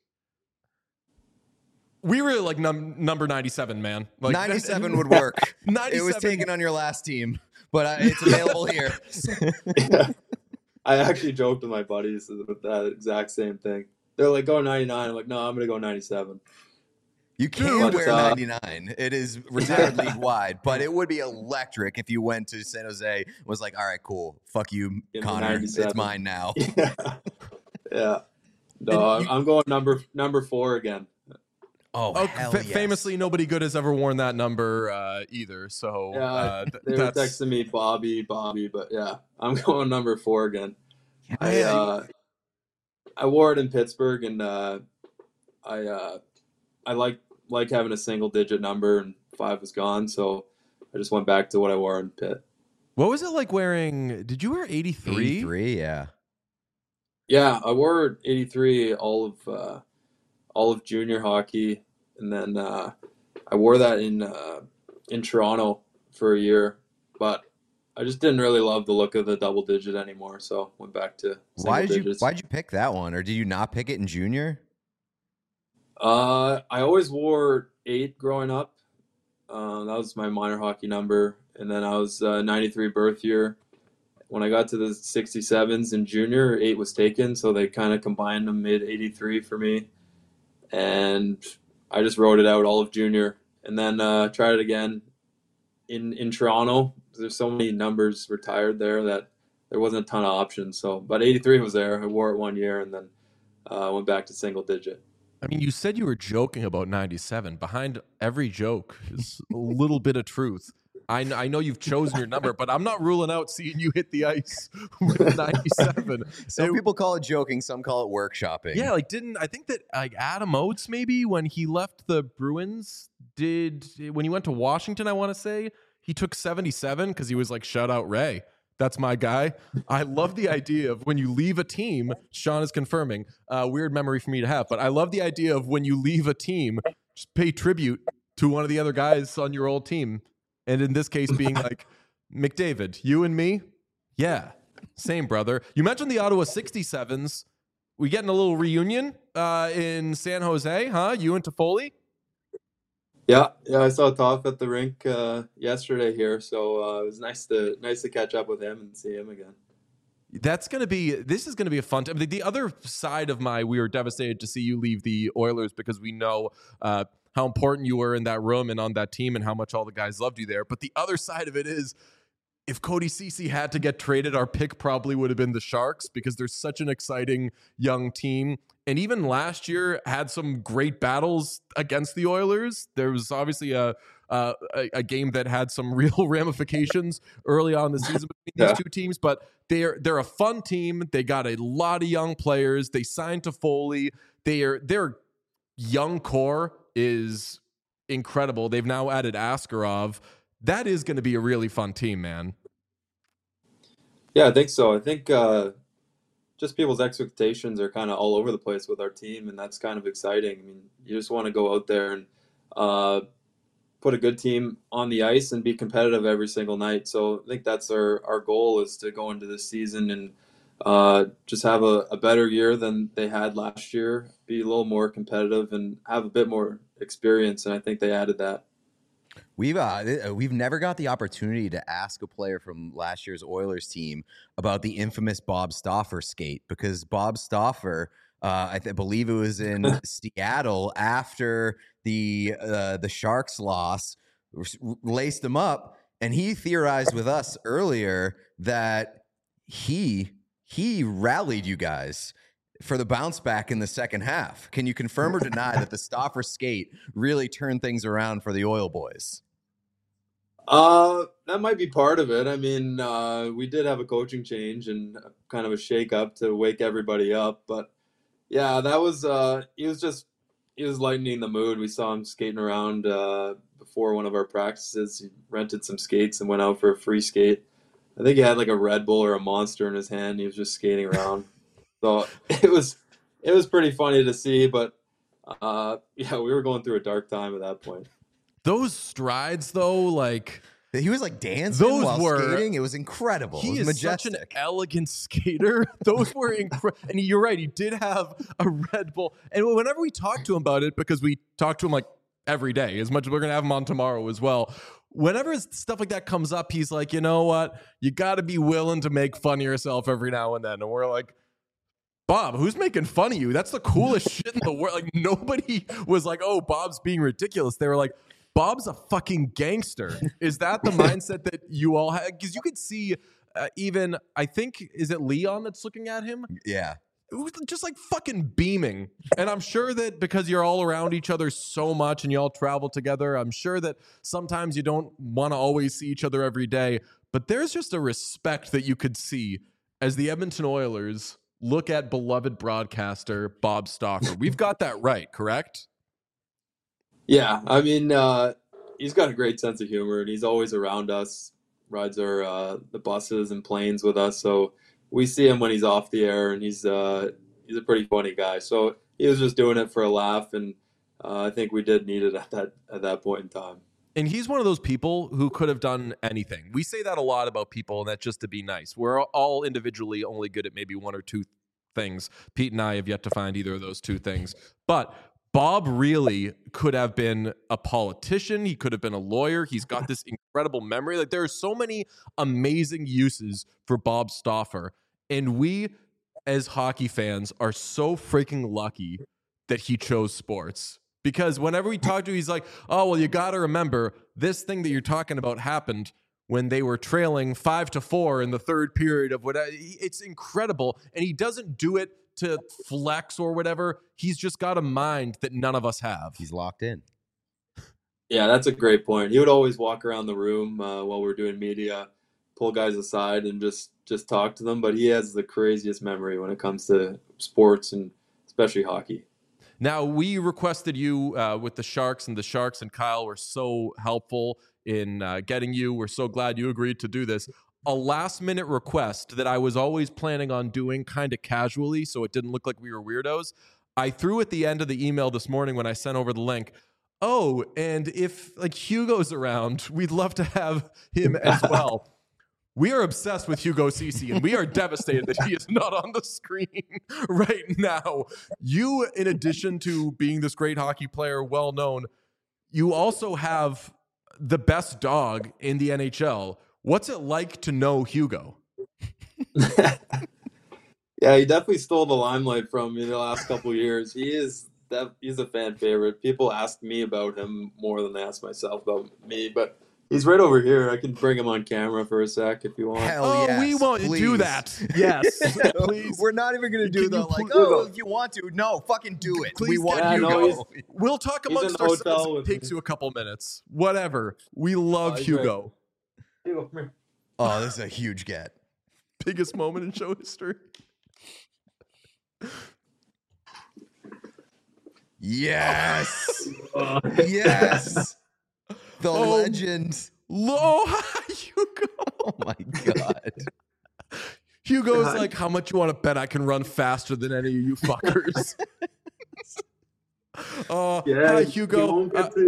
We really like number 97, man. Like, 97 would work. 97. It was taken on your last team, but it's available here. Yeah. I actually joked with my buddies with that exact same thing. They're like, go 99. I'm like, no, I'm going to go 97. You can wear 99. It is retired league wide, but it would be electric if you went to San Jose and was like, all right, cool. Fuck you, Connor. It's mine now. Yeah. No, I'm going number 4 again. Oh, hell yes. Famously, nobody good has ever worn that number either. So they were texting me Bobby, but yeah, I'm going number 4 again. I wore it in Pittsburgh, and I like having a single digit number, and 5 was gone, so I just went back to what I wore in Pitt. What was it like wearing? Did you wear 83? 83, yeah. Yeah, I wore 83 all of junior hockey, and then I wore that in Toronto for a year, but I just didn't really love the look of the double digit anymore, so went back to single digits. Why did you pick that one, or did you not pick it in junior? I always wore 8 growing up. That was my minor hockey number, and then I was 93 birth year. When I got to the 67s in junior, 8 was taken, so they kind of combined them, made 83 for me. And I just wrote it out all of junior, and then tried it again in Toronto. There's so many numbers retired there that there wasn't a ton of options. So, but 83 was there. I wore it 1 year, and then went back to single digit. I mean, you said you were joking about 97. Behind every joke is a little bit of truth. I know you've chosen your number, but I'm not ruling out seeing you hit the ice with 97. Some people call it joking, some call it workshopping. Yeah, I think that like Adam Oates, maybe when he left the Bruins, when he went to Washington, I want to say, he took 77 because he was like, shout out Ray. That's my guy. I love the idea of when you leave a team, Sean is confirming, weird memory for me to have, but I love the idea of when you leave a team, just pay tribute to one of the other guys on your old team. And in this case being like, McDavid, you and me? Yeah, same, brother. You mentioned the Ottawa 67s. We getting a little reunion in San Jose, huh? You and Toffoli? Yeah, I saw Toff at the rink yesterday here, so it was nice to catch up with him and see him again. This is going to be a fun time. The other side of we were devastated to see you leave the Oilers because we know how important you were in that room and on that team and how much all the guys loved you there. But the other side of it is, if Cody Ceci had to get traded, our pick probably would have been the Sharks because they're such an exciting young team. And even last year had some great battles against the Oilers. There was obviously a game that had some real ramifications early on in the season between these two teams, but they're a fun team. They got a lot of young players. They signed Toffoli. Their young core is incredible. They've now added Askarov. That is going to be a really fun team, man. Yeah, I think so. I think just people's expectations are kind of all over the place with our team, and that's kind of exciting. I mean, you just want to go out there and put a good team on the ice and be competitive every single night. So I think that's our goal, is to go into this season and just have a better year than they had last year, be a little more competitive and have a bit more experience. And I think they added that. We've never got the opportunity to ask a player from last year's Oilers team about the infamous Bob Stauffer skate, because Bob Stauffer, I believe it was in Seattle after the Sharks loss, laced him up, and he theorized with us earlier that he rallied you guys for the bounce back in the second half. Can you confirm or deny that the Stauffer skate really turned things around for the Oil boys? That might be part of it. I mean, we did have a coaching change and kind of a shake up to wake everybody up, but yeah, that was he was lightening the mood. We saw him skating around before one of our practices. He rented some skates and went out for a free skate. I think he had like a Red Bull or a Monster in his hand. He was just skating around. So it was pretty funny to see, but yeah, we were going through a dark time at that point. Those strides, though, like he was like dancing those while were skating. It was incredible. He it was is majestic. such an elegant skater. Those were incredible. And you're right, he did have a Red Bull. And whenever we talk to him about it, because we talk to him like every day, as much as we're going to have him on tomorrow as well, whenever stuff like that comes up, he's like, you know what? You got to be willing to make fun of yourself every now and then. And we're like, Bob, who's making fun of you? That's the coolest shit in the world. Like, nobody was like, oh, Bob's being ridiculous. They were like, Bob's a fucking gangster. Is that the mindset that you all have? Because you could see even, I think, is it Leon that's looking at him? Yeah. It was just like fucking beaming. And I'm sure that because you're all around each other so much and you all travel together, I'm sure that sometimes you don't want to always see each other every day. But there's just a respect that you could see as the Edmonton Oilers look at beloved broadcaster Bob Stauffer. We've got that right, correct? Yeah, I mean, he's got a great sense of humor, and he's always around us, rides our the buses and planes with us. So we see him when he's off the air, and he's a pretty funny guy. So he was just doing it for a laugh, and I think we did need it at that point in time. And he's one of those people who could have done anything. We say that a lot about people, and that's just to be nice. We're all individually only good at maybe one or two things. Pete and I have yet to find either of those two things. But Bob really could have been a politician. He could have been a lawyer. He's got this incredible memory. Like, there are so many amazing uses for Bob Stauffer. And we, as hockey fans, are so freaking lucky that he chose sports. Because whenever we talk to him, he's like, oh, well, you got to remember, this thing that you're talking about happened when they were trailing 5-4 in the third period of whatever. It's incredible. And he doesn't do it to flex or whatever. He's just got a mind that none of us have. He's locked in. Yeah, that's a great point. He would always walk around the room while we're doing media, pull guys aside and just talk to them. But he has the craziest memory when it comes to sports and especially hockey. Now, we requested you with the Sharks, and the Sharks and Kyle were so helpful in getting you. We're so glad you agreed to do this. A last-minute request that I was always planning on doing kind of casually so it didn't look like we were weirdos. I threw at the end of the email this morning when I sent over the link, oh, and if like Hugo's around, we'd love to have him as well. We are obsessed with Hugo Ceci, and we are devastated that he is not on the screen right now. You, in addition to being this great hockey player, well known, you also have the best dog in the NHL. What's it like to know Hugo? Yeah, he definitely stole the limelight from me the last couple of years. He's a fan favorite. People ask me about him more than they ask myself about me, but he's right over here. I can bring him on camera for a sec if you want. Hell yes, we won't do that. Yes, please. We're not even going to do the like, if you want to. No, fucking do it. Please, we want yeah, Hugo. no, we'll talk amongst ourselves. It takes you a couple minutes. Whatever. We love Hugo. Oh, this is a huge get. Biggest moment in show history. Yes. Yes. The legend. Hugo. Oh my God. Hugo's like, how much you want to bet I can run faster than any of you fuckers? Yeah, hi, Hugo. He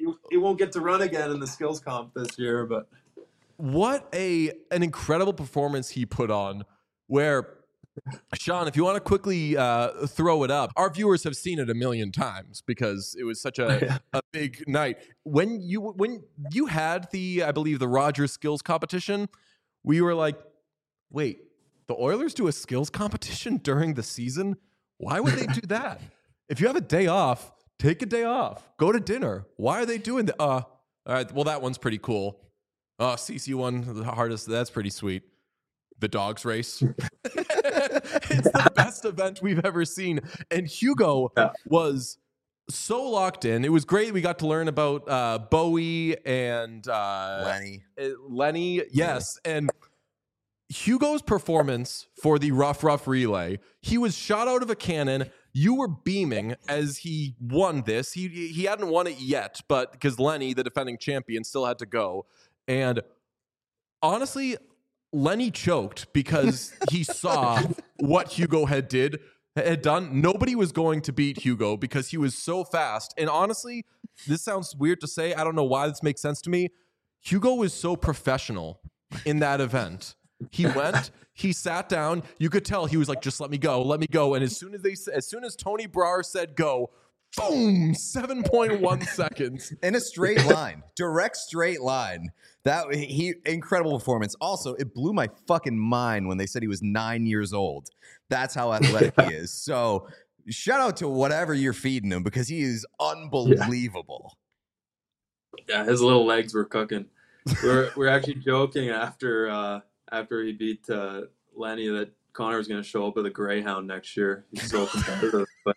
he won't get to run again in the skills comp this year, but What an incredible performance he put on, where, Sean, if you want to quickly throw it up, our viewers have seen it a million times because it was such a big night. When you had I believe the Rogers skills competition, we were like, wait, the Oilers do a skills competition during the season? Why would they do that? If you have a day off, take a day off. Go to dinner. Why are they doing that? All right, well, that one's pretty cool. CC won the hardest. That's pretty sweet. The dogs race. It's the best event we've ever seen. And Hugo was so locked in. It was great. We got to learn about Bowie and Lenny. Yes. And Hugo's performance for the rough relay, he was shot out of a cannon. You were beaming as he won this. He hadn't won it yet, but because Lenny, the defending champion, still had to go. And honestly, Lenny choked because he saw what Hugo had done. Nobody was going to beat Hugo because he was so fast. And honestly, this sounds weird to say. I don't know why this makes sense to me. Hugo was so professional in that event. He went, he sat down. You could tell he was like, just let me go. And as soon as Tony Brar said go, boom, 7.1 seconds in a straight line, direct straight line. Incredible performance. Also, it blew my fucking mind when they said he was 9 years old. That's how athletic he is. So shout out to whatever you're feeding him because he is unbelievable. Yeah, his little legs were cooking. We're actually joking after he beat Lenny that Connor was going to show up with a Greyhound next year. He's so competitive, but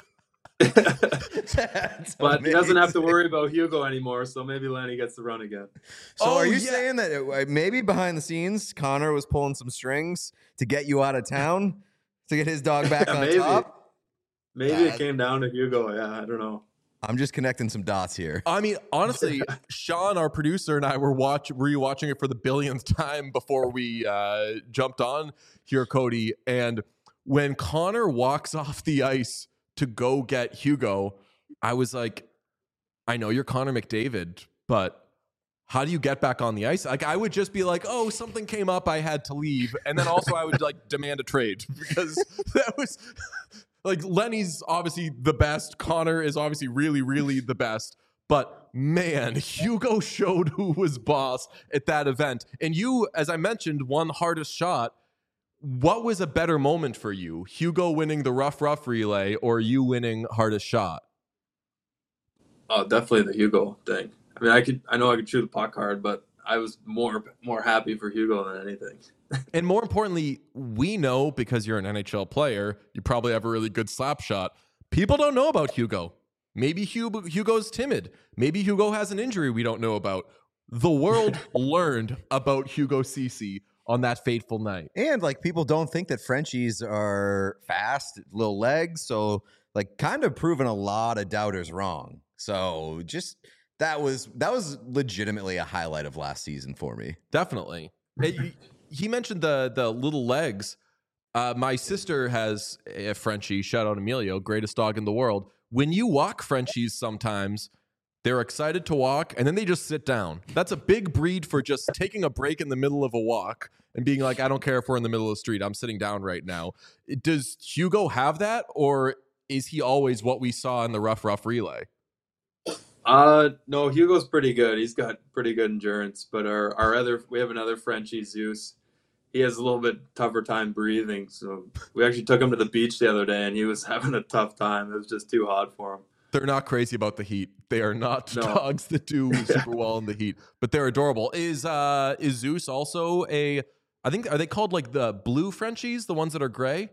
he doesn't have to worry about Hugo anymore, so maybe Lenny gets to run again. So are you saying that maybe behind the scenes, Connor was pulling some strings to get you out of town to get his dog back on top? Maybe it came down to Hugo. Yeah, I don't know. I'm just connecting some dots here. I mean, honestly, Sean, our producer, and I were rewatching it for the billionth time before we jumped on here, Cody. And when Connor walks off the ice to go get Hugo, I was like, I know you're Connor McDavid, but how do you get back on the ice? Like, I would just be like, oh, something came up, I had to leave. And then also I would like demand a trade because that was like, Lenny's obviously the best. Connor is obviously really, really the best. But man, Hugo showed who was boss at that event. And you, as I mentioned, won hardest shot. What was a better moment for you? Hugo winning the rough relay or you winning hardest shot? Oh, definitely the Hugo thing. I mean, I know I could shoot the puck hard, but I was more happy for Hugo than anything. And more importantly, we know because you're an NHL player, you probably have a really good slap shot. People don't know about Hugo. Maybe Hugo's timid. Maybe Hugo has an injury we don't know about. The world learned about Hugo Ceci on that fateful night. And like, people don't think that Frenchies are fast, little legs. So like, kind of proving a lot of doubters wrong. So just that was legitimately a highlight of last season for me. Definitely. He mentioned the little legs. My sister has a Frenchie. Shout out Emilio, greatest dog in the world. When you walk Frenchies, sometimes they're excited to walk and then they just sit down. That's a big breed for just taking a break in the middle of a walk and being like, I don't care if we're in the middle of the street. I'm sitting down right now. Does Hugo have that, or is he always what we saw in the rough relay? No, Hugo's pretty good. He's got pretty good endurance, but we have another Frenchie, Zeus. He has a little bit tougher time breathing. So we actually took him to the beach the other day and he was having a tough time. It was just too hot for him. They're not crazy about the heat. They are not dogs that do super well in the heat, but they're adorable. Is Zeus also are they called like the blue Frenchies, the ones that are gray?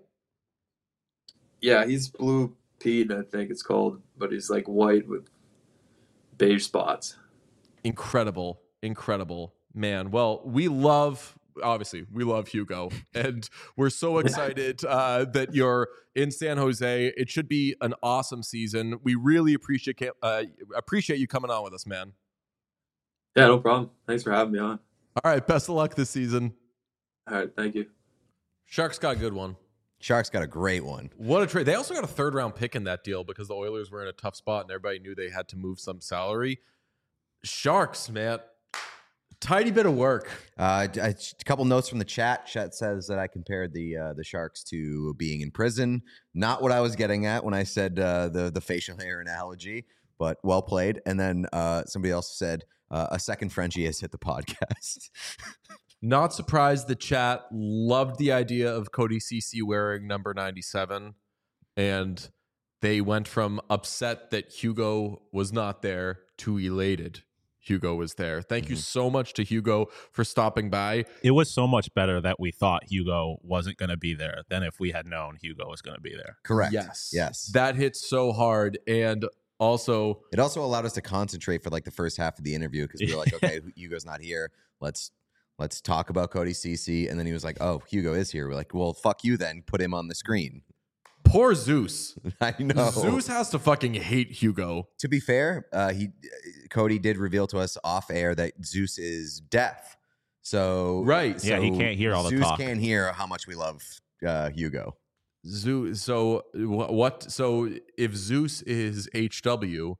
Yeah, he's blue Pete, I think it's called, but he's like white with beige spots. Incredible. Man, well, we love Hugo, and we're so excited that you're in San Jose. It should be an awesome season. We really appreciate you coming on with us, man. Yeah, no problem. Thanks for having me on. All right, best of luck this season. All right, thank you. Sharks got a good one. Sharks got a great one. What a trade. They also got a 3rd round pick in that deal because the Oilers were in a tough spot and everybody knew they had to move some salary. Sharks, man. Tiny bit of work. A couple notes from the chat. Chat says that I compared the Sharks to being in prison. Not what I was getting at when I said the facial hair analogy, but well played. And then somebody else said a second Frenchie has hit the podcast. Not surprised the chat loved the idea of Cody Ceci wearing number 97. And they went from upset that Hugo was not there to elated Hugo was there. Thank you so much to Hugo for stopping by. It was so much better that we thought Hugo wasn't going to be there than if we had known Hugo was going to be there. Correct. Yes. That hit so hard. And also, it also allowed us to concentrate for like the first half of the interview because we were like, okay, Hugo's not here. Let's talk about Cody Ceci. And then he was like, oh, Hugo is here. We're like, well, fuck you then. Put him on the screen. Poor Zeus. I know. Zeus has to fucking hate Hugo. To be fair, Cody did reveal to us off air that Zeus is deaf. So right. Yeah, he can't hear all the Zeus talk. can't hear how much we love Hugo. Zeus. So what? So if Zeus is HW,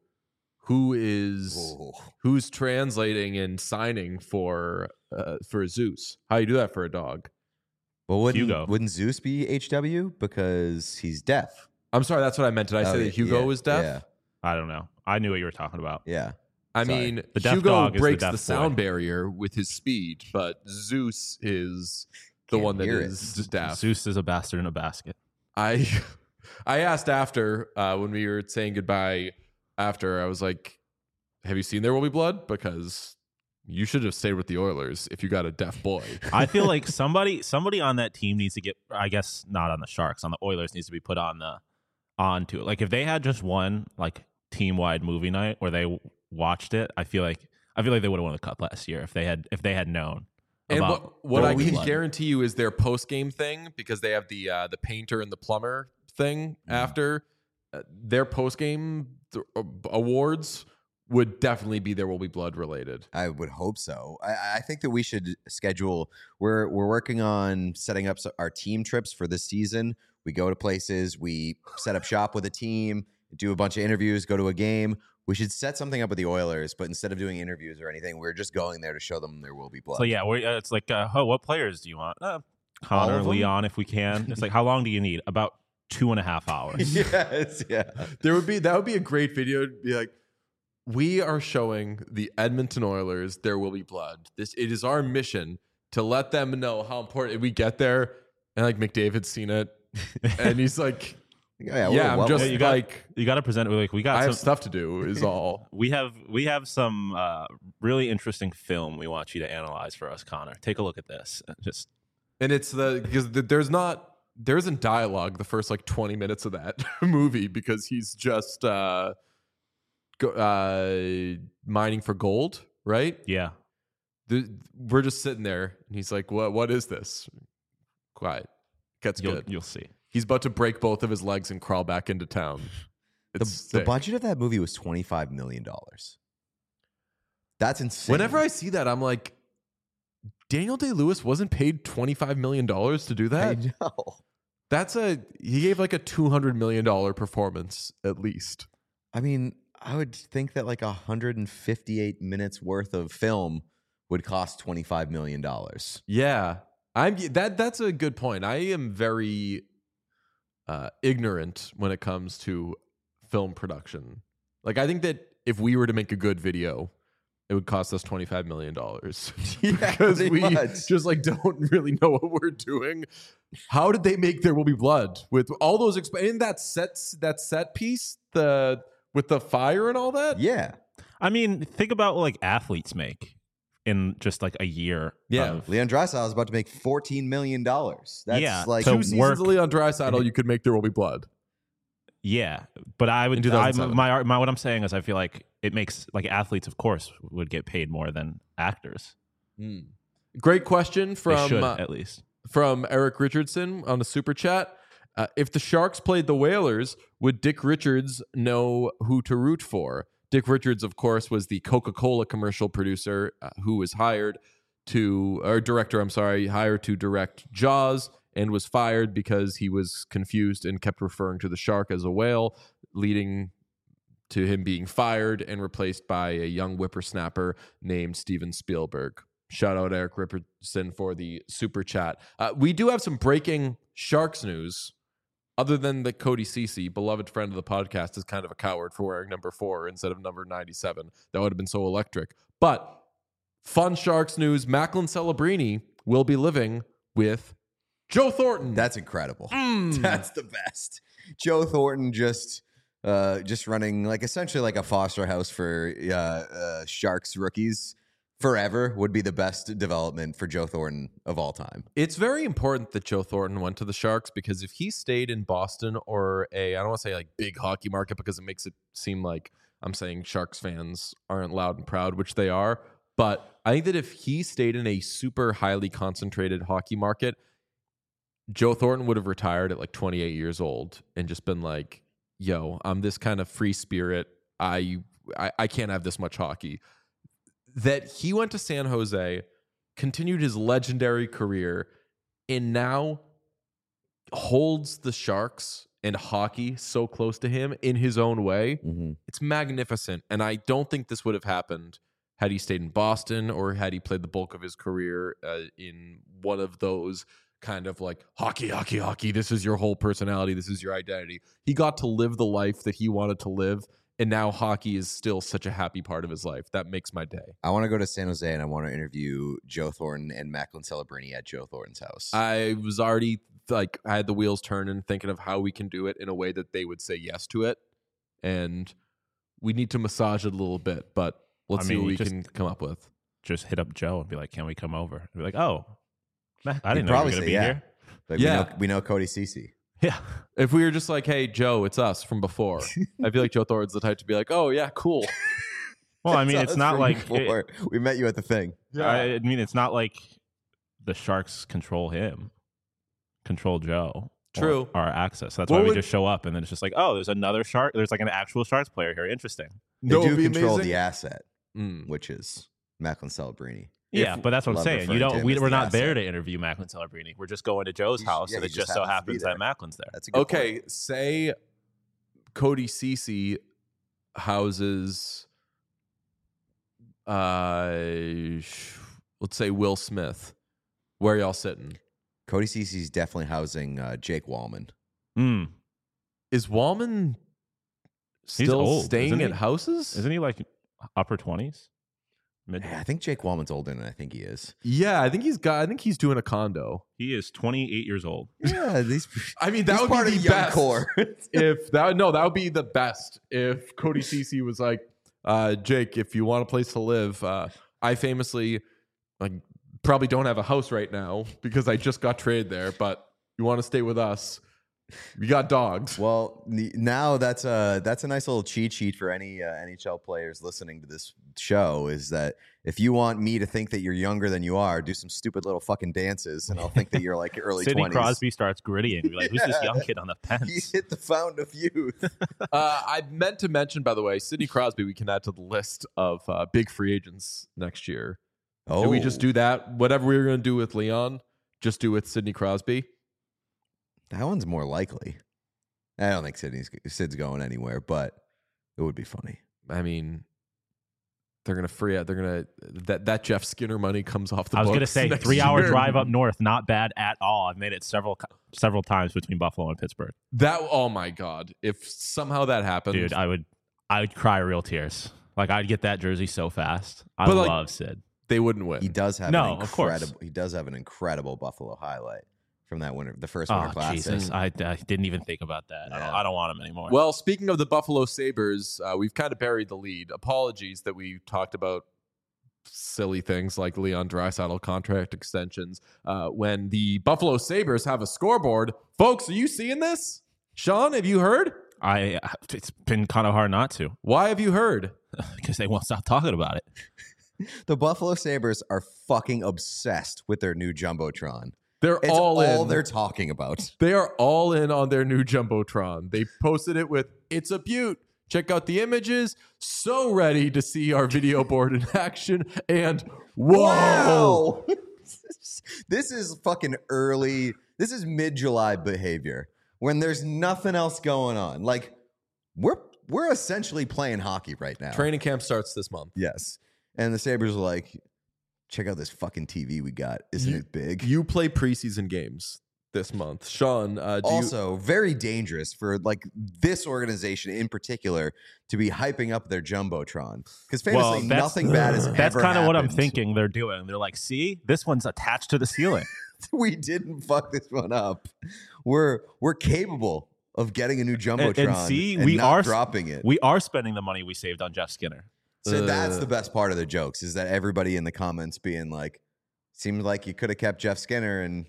who's translating and signing for Zeus? How you do that for a dog? Well, Hugo. Wouldn't Zeus be HW because he's deaf? I'm sorry, that's what I meant. Did I say that Hugo was deaf? Yeah. I don't know. I knew what you were talking about. Yeah. I Sorry. mean, The deaf Hugo dog is the breaks deaf the boy. sound barrier with his speed, but Zeus is the Can't one that hear is deaf. Zeus is a bastard in a basket. I asked after when we were saying goodbye. After I was like, "Have you seen There Will Be Blood?" Because you should have stayed with the Oilers if you got a deaf boy. I feel like somebody on that team needs to get, I guess not on the Sharks, on the Oilers needs to be put onto it. Like if they had just one like team-wide movie night where they watched it, I feel like they would have won the cup last year if they had known. And about what I There Will Be can Blood. guarantee you is their post game thing, because they have the painter and the plumber thing after their post game awards would definitely be There Will Be Blood related. I would hope so. I think that we should schedule. We're working on setting up our team trips for this season. We go to places, we set up shop with a team, do a bunch of interviews, go to a game. We should set something up with the Oilers, but instead of doing interviews or anything, we're just going there to show them There Will Be Blood. So yeah, it's like, what players do you want? Connor, of them? Leon, if we can. It's like, how long do you need? About 2.5 hours. Yes, yeah. That would be a great video to be like, we are showing the Edmonton Oilers There Will Be Blood. It is our mission to let them know how important we get there. And like McDavid's seen it, and he's like, I'm just You got to present it like we got. I have stuff to do. Is all. We have some really interesting film we want you to analyze for us, Connor. Take a look at this. And it's because there isn't dialogue the first like 20 minutes of that movie because he's just mining for gold, right? Yeah. We're just sitting there, and he's like, "What is this?" Quiet. Gets good. You'll see. He's about to break both of his legs and crawl back into town. The budget of that movie was $25 million. That's insane. Whenever I see that, I'm like, Daniel Day-Lewis wasn't paid $25 million to do that? I know. He gave like a $200 million performance at least. I mean, I would think that like 158 minutes worth of film would cost $25 million. Yeah. That's a good point. I am very ignorant when it comes to film production. Like, I think that if we were to make a good video, it would cost us $25 million. Because we just like don't really know what we're doing. How did they make There Will Be Blood with all those in that set piece, with the fire and all that? Yeah. I mean, think about what like athletes make in just like a year. Yeah. Leon Draisaitl is about to make $14 million. That's like to 2 seasons of Leon Draisaitl, you could make There Will Be Blood. Yeah, but I would. In 2007. What I'm saying is, I feel like it makes like athletes, of course, would get paid more than actors. Great question They from should, at least. From Eric Richardson on the super chat. If the Sharks played the Whalers, would Dick Richards know who to root for? Dick Richards, of course, was the Coca-Cola commercial producer who was hired to direct Jaws and was fired because he was confused and kept referring to the shark as a whale, leading to him being fired and replaced by a young whippersnapper named Steven Spielberg. Shout out Eric Ripperson for the super chat. We do have some breaking Sharks news. Other than that, Cody Ceci, beloved friend of the podcast, is kind of a coward for wearing number 4 instead of number 97. That would have been so electric. But fun Sharks news: Macklin Celebrini will be living with Joe Thornton. That's incredible. That's the best. Joe Thornton just running like essentially like a foster house for Sharks rookies forever would be the best development for Joe Thornton of all time. It's very important that Joe Thornton went to the Sharks, because if he stayed in Boston or I don't want to say like big hockey market, because it makes it seem like I'm saying Sharks fans aren't loud and proud, which they are. But I think that if he stayed in a super highly concentrated hockey market, Joe Thornton would have retired at like 28 years old and just been like, yo, I'm this kind of free spirit. I can't have this much hockey. That he went to San Jose, continued his legendary career, and now holds the Sharks and hockey so close to him in his own way. Mm-hmm. It's magnificent. And I don't think this would have happened had he stayed in Boston or had he played the bulk of his career in one of those kind of like hockey. This is your whole personality. This is your identity. He got to live the life that he wanted to live. And now hockey is still such a happy part of his life. That makes my day. I want to go to San Jose and I want to interview Joe Thornton and Macklin Celebrini at Joe Thornton's house. I was already like, I had the wheels turning, thinking of how we can do it in a way that they would say yes to it. And we need to massage it a little bit, but let's see what we can come up with. Just hit up Joe and be like, can we come over? And be like, oh, I didn't He'd know you were probably going to say be yeah. here. Like, we know Cody Ceci. Yeah. If we were just like, hey, Joe, it's us from before, I feel like Joe Thornton's the type to be like, oh, yeah, cool. Well, I mean, it's not like we met you at the thing. I mean, it's not like the Sharks control him, control Joe. True. Our access. So that's why we just show up, and then it's just like, oh, there's another Shark. There's like an actual Sharks player here. Interesting. They do control the asset, which is Macklin Celebrini. Yeah, but that's what I'm saying. You don't. We're not there to interview Macklin Celebrini. We're just going to Joe's house, and it just so happens that Macklin's there. That's a good point. Say Cody Ceci houses, let's say Will Smith. Where are y'all sitting? Cody Ceci's definitely housing Jake Wallman. Is Wallman still old, staying at houses? Isn't he like upper 20s? I think Jake Wallman's older than I think he is. Yeah, I think he's doing a condo. He is 28 years old. Yeah, I mean, that would part be of the young best. core. That would be the best if Cody Ceci was like, Jake, if you want a place to live, I famously like probably don't have a house right now because I just got traded there, but you want to stay with us? We got dogs. Well, now that's a nice little cheat sheet for any NHL players listening to this show, is that if you want me to think that you're younger than you are, do some stupid little fucking dances, and I'll think that you're like early 20s. Sidney Crosby starts grittying. You're like, who's this young kid on the fence? He hit the fountain of youth. I meant to mention, by the way, Sidney Crosby we can add to the list of big free agents next year. Oh, Can we just do that? Whatever we were going to do with Leon, just do with Sidney Crosby. That one's more likely. I don't think Sid's going anywhere, but it would be funny. I mean, they're going to free out. They're going to that Jeff Skinner money comes off the books. I was going to say 3-hour drive up north, not bad at all. I've made it several times between Buffalo and Pittsburgh. Oh my God. If somehow that happened. Dude, I would cry real tears. Like, I'd get that jersey so fast. I love Sid. They wouldn't win. He does have of course. He does have an incredible Buffalo highlight from that winter, the first Winter Classic. Jesus. I didn't even think about that. Yeah. I don't want him anymore. Well, speaking of the Buffalo Sabres, we've kind of buried the lead. Apologies that we talked about silly things like Leon Draisaitl contract extensions. When the Buffalo Sabres have a scoreboard, folks, are you seeing this? Sean, have you heard? It's been kind of hard not to. Why have you heard? Because they won't stop talking about it. The Buffalo Sabres are fucking obsessed with their new Jumbotron. It's all they're talking about. They are all in on their new Jumbotron. They posted it with, it's a beaut. Check out the images. So ready to see our video board in action. And whoa. Wow! This is fucking early. This is mid-July behavior when there's nothing else going on. Like, we're essentially playing hockey right now. Training camp starts this month. Yes. And the Sabres are like, check out this fucking TV we got. Isn't it big? You play preseason games this month. Sean, Also, very dangerous for like this organization in particular to be hyping up their Jumbotron. Because famously, nothing bad has That's ever kind of what I'm happened. thinking they're doing. They're like, see, this one's attached to the ceiling. We didn't fuck this one up. We're capable of getting a new Jumbotron And see, and we not are dropping it. We are spending the money we saved on Jeff Skinner. So that's the best part of the jokes is that everybody in the comments being like, seems like you could have kept Jeff Skinner and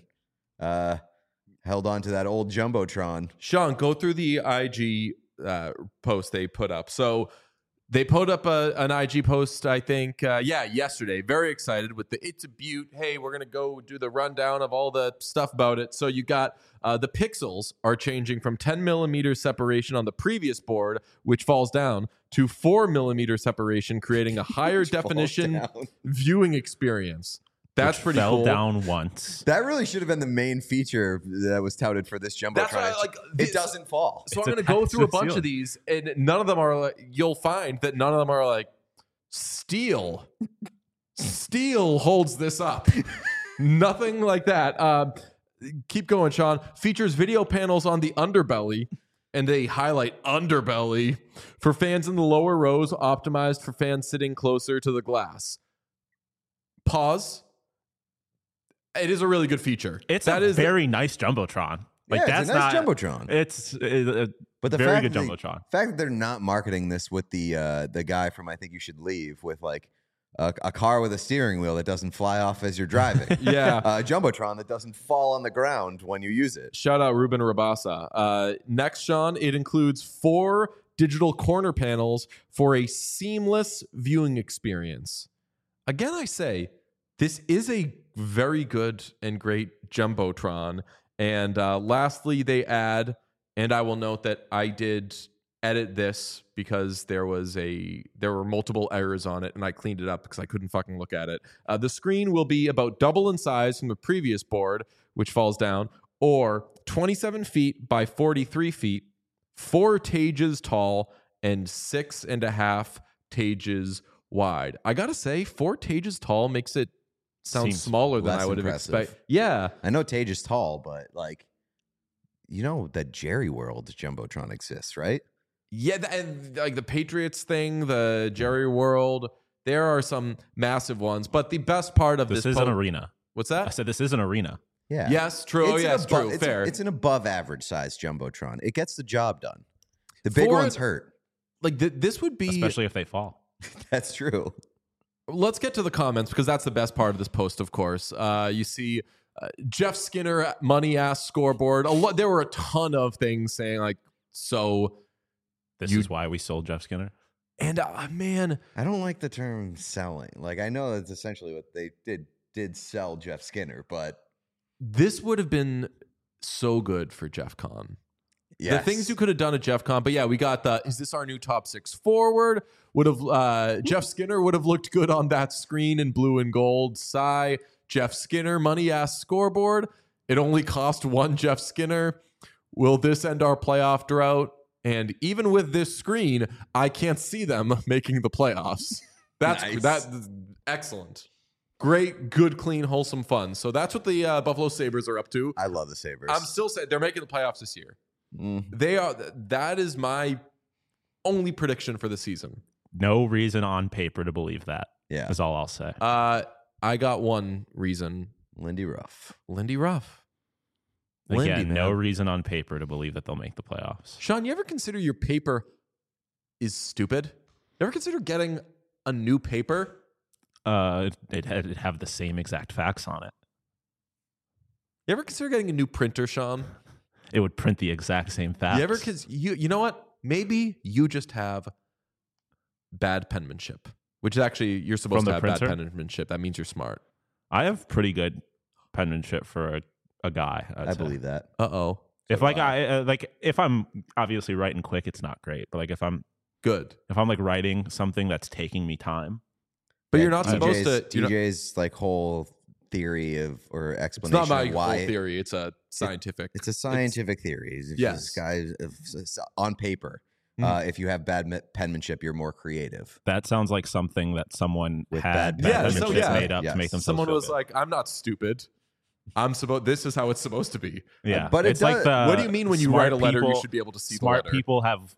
held on to that old Jumbotron. Sean, go through the IG post they put up. So they put up an IG post, I think, yesterday. Very excited with the It's a Butte. Hey, we're going to go do the rundown of all the stuff about it. So you got the pixels are changing from 10 millimeter separation on the previous board, which falls down, to 4 millimeter separation, creating a higher definition viewing experience. That's which pretty fell cool. down once. That really should have been the main feature that was touted for this Jumbotron. That's why I like it doesn't fall. So It's I'm going to go attached through a to the bunch of ceiling. these, and none of them are like, you'll find that none of them are like, steel. Steel holds this up. Nothing like that. Keep going, Sean. Features video panels on the underbelly, and they highlight underbelly for fans in the lower rows, optimized for fans sitting closer to the glass. Pause. It is a really good feature. It's that a is very nice Jumbotron. Like Yeah, that's it's a nice not Jumbotron. It's a But the very fact good that Jumbotron. The fact that they're not marketing this with the guy from I Think You Should Leave with like a car with a steering wheel that doesn't fly off as you're driving. Yeah. A Jumbotron that doesn't fall on the ground when you use it. Shout out Ruben Rabasa. Next, Sean, it includes 4 digital corner panels for a seamless viewing experience. Again, I say this is a very good and great Jumbotron. And lastly, they add, and I will note that I did edit this because there were multiple errors on it, and I cleaned it up because I couldn't fucking look at it. The screen will be about double in size from the previous board, which falls down, or 27 feet by 43 feet, 4 tages tall, and 6.5 tages wide. I gotta say, 4 tages tall makes it sound Seems smaller than less I would have impressive. expected. Yeah. I know Tage is tall, but like, you know that Jerry World Jumbotron exists, right? Yeah, and like the Patriots thing, the Jerry World, there are some massive ones. But the best part of This this is an arena. What's I that? said this is an arena. Yeah. Yes, true. It's an True. it's Fair. It's an above average size Jumbotron. It gets the job done. The big For- ones hurt. Like this would be. Especially if they fall. That's true. Let's get to the comments because that's the best part of this post. Of course, you see Jeff Skinner money ass scoreboard. There were a ton of things saying like so. This is why we sold Jeff Skinner. And man, I don't like the term selling. Like I know that's essentially what they did sell Jeff Skinner, but this would have been so good for Jeff Con. yes. The things you could have done at Jeff Con, but yeah, we got the. Is this our new top 6 forward? Would have Jeff Skinner would have looked good on that screen in blue and gold. Sigh. Jeff Skinner money ass scoreboard. It only cost 1 Jeff Skinner. Will this end our playoff drought? And even with this screen, I can't see them making the playoffs. That's Nice. Excellent. Great, good, clean, wholesome fun. So that's what the Buffalo Sabres are up to. I love the Sabres. I'm still saying they're making the playoffs this year. Mm. They are. That is my only prediction for the season. No reason on paper to believe that. Yeah. Is all I'll say. I got one reason. Lindy Ruff. Lindy Ruff. Again, Lindy, no man. reason on paper to believe that they'll make the playoffs. Sean, you ever consider your paper is stupid? You ever consider getting a new paper? It'd have the same exact facts on it. You ever consider getting a new printer, Sean? It would print the exact same facts. You ever? Because you know what? Maybe you just have bad penmanship, which is actually you're supposed From to the have printer? bad penmanship. That means you're smart. I have pretty good penmanship for a guy. I believe that. Uh-oh. If like if I'm obviously writing quick, it's not great. But like if I'm Good. like writing something that's taking me time, But Yeah, you're not supposed to. you're not- TJ's like whole theory of or it's explanation not my of why whole theory. It's a scientific. It's a scientific theory. It's Yes. this guy on paper. If you have bad penmanship, you're more creative. That sounds like something that someone With had bad penmanship penmanship. made up Yes. to make themselves Someone feel was good. like, I'm not stupid. This is how it's supposed to be. yeah, but it it's like does- the What do you mean when you smart write a letter, you people- should be able to see the smart letter? people have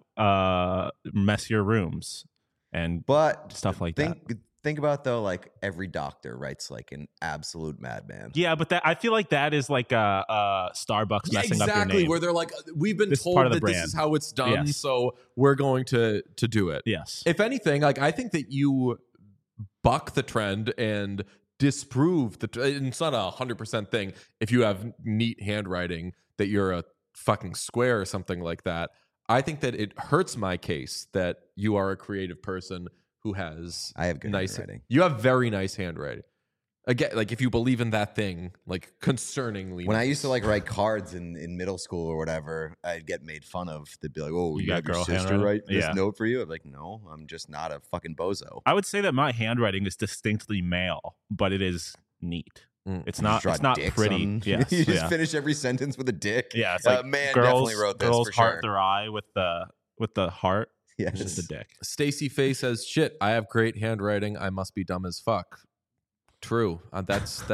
messier rooms and But stuff like that. think about though, like every doctor writes like an absolute madman. Yeah, but I feel like that is like a Starbucks messing up your exactly. name. Where they're like, we've been This is told part of the that this brand. is how it's done, Yes. so we're going to do it. Yes. If anything, like I think that you buck the trend and disprove and it's not a 100% thing. If you have neat handwriting, that you're a fucking square or something like that. I think that it hurts my case that you are a creative person who has I have good nice handwriting. You have very nice handwriting. Again, like if you believe in that thing, like concerningly. When I nice. used to like write cards in middle school or whatever, I'd get made fun of. They'd be like, "Oh, You you got have your girl sister handwriting?" write this Yeah. note for you?" I'm like, "No, I'm just not a fucking bozo." I would say that my handwriting is distinctly male, but it is neat. Mm. It's You not. just draw It's not dicks pretty. on- Yes. you just yeah. finish every sentence with a dick. Yeah. It's like man girls. definitely wrote this girls for heart sure. their eye with the heart. Yes. It's just a dick. Stacy Faye says, "Shit, I have great handwriting. I must be dumb as fuck." True. That's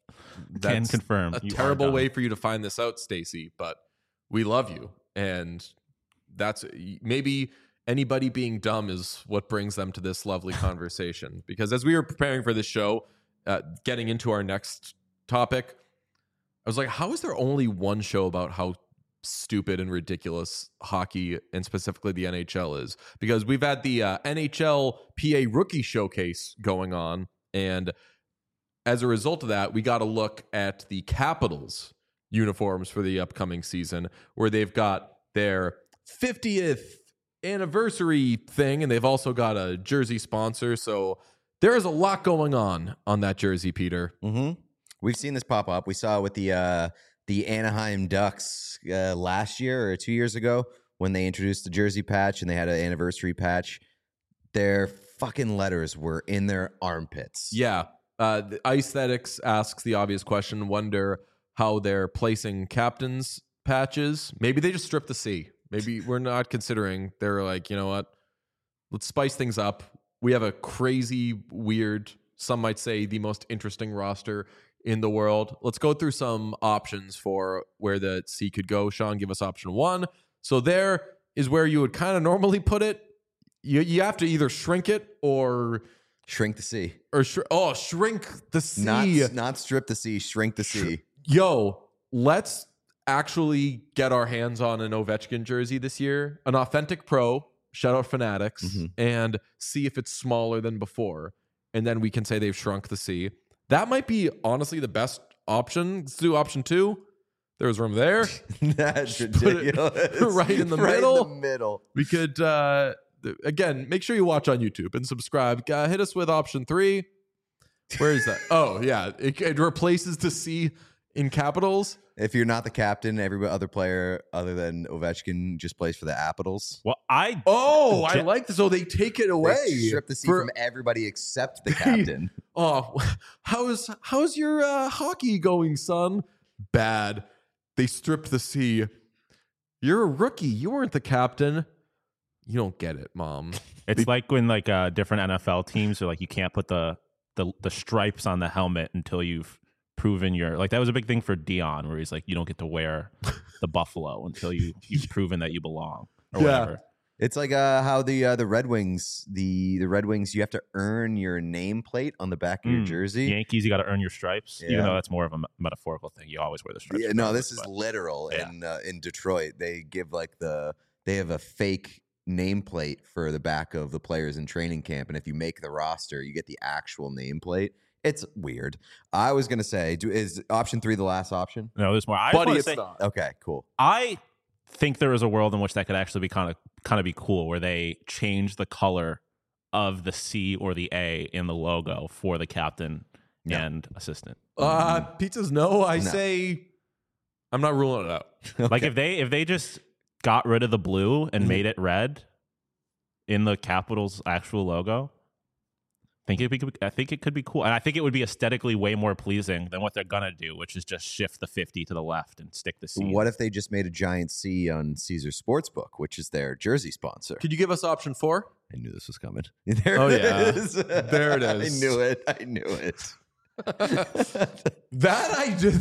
Can confirm. a you are terrible dumb. way for you to find this out, Stacy, but we love you. And that's maybe anybody being dumb is what brings them to this lovely conversation. Because as we were preparing for this show, getting into our next topic, I was like, how is there only one show about how stupid and ridiculous hockey and specifically the NHL is? Because we've had the NHL PA Rookie Showcase going on, and as a result of that, we got to look at the Capitals uniforms for the upcoming season, where they've got their 50th anniversary thing, and they've also got a jersey sponsor. So there is a lot going on that jersey, Peter. Mm-hmm. We've seen this pop up. We saw it with the Anaheim Ducks last year or 2 years ago when they introduced the jersey patch and they had an anniversary patch. Their fucking letters were in their armpits. Yeah. The Aesthetics asks the obvious question, wonder how they're placing captains patches. Maybe they just stripped the C. Maybe we're not considering. They're like, you know what? Let's spice things up. We have a crazy, weird, some might say the most interesting roster in the world. Let's go through some options for where the C could go. Sean, give us option 1. So there is where you would kind of normally put it. You have to either shrink it or Shrink the C. shrink the C. Not strip the C, shrink the C. Yo, let's actually get our hands on an Ovechkin jersey this year, an authentic pro, shout out Fanatics, and see if it's smaller than before. And then we can say they've shrunk the C. That might be honestly the best option. Let's do option 2. There's room there. That's Put it ridiculous. right in the Right middle. in the middle. We could, again, make sure you watch on YouTube and subscribe. Hit us with option 3. Where is that? Oh, yeah. It replaces the C in capitals. If you're not the captain, every other player other than Ovechkin just plays for the Apples. Well, I I like this. So they take it away. They strip the C for- from everybody except the captain. Oh, how's your hockey going, son? Bad. They stripped the C. You're a rookie. You weren't the captain. You don't get it, Mom. It's like when like different NFL teams are like you can't put the stripes on the helmet until you've proven your like that was a big thing for Dion where he's like you don't get to wear the buffalo until you've proven that you belong or whatever. It's like how the Red Wings, the Red Wings, you have to earn your nameplate on the back of your jersey. Yankees, you got to earn your stripes, Yeah. even though that's more of a metaphorical thing. You always wear the stripes. Yeah, no, regardless, this is but- literal. Yeah. In Detroit, they give they have a fake nameplate for the back of the players in training camp, and if you make the roster, you get the actual nameplate. It's weird. I was gonna say, is option 3 the last option? No, there's more. I just Buddy, wanna it's say, not. Okay, cool. I think there is a world in which that could actually be kind of be cool, where they change the color of the C or the A in the logo for the captain No. and assistant. Pizza's no. I No. say I'm not ruling it out. Like if they just got rid of the blue and made it red in the Capitals' actual logo, I think it could be cool, and I think it would be aesthetically way more pleasing than what they're gonna do, which is just shift the 50 to the left and stick the C. What if they just made a giant C on Caesar Sportsbook, which is their jersey sponsor? Could you give us option 4? I knew this was coming. There Oh, it yeah. is. There it is. I knew it. That I did.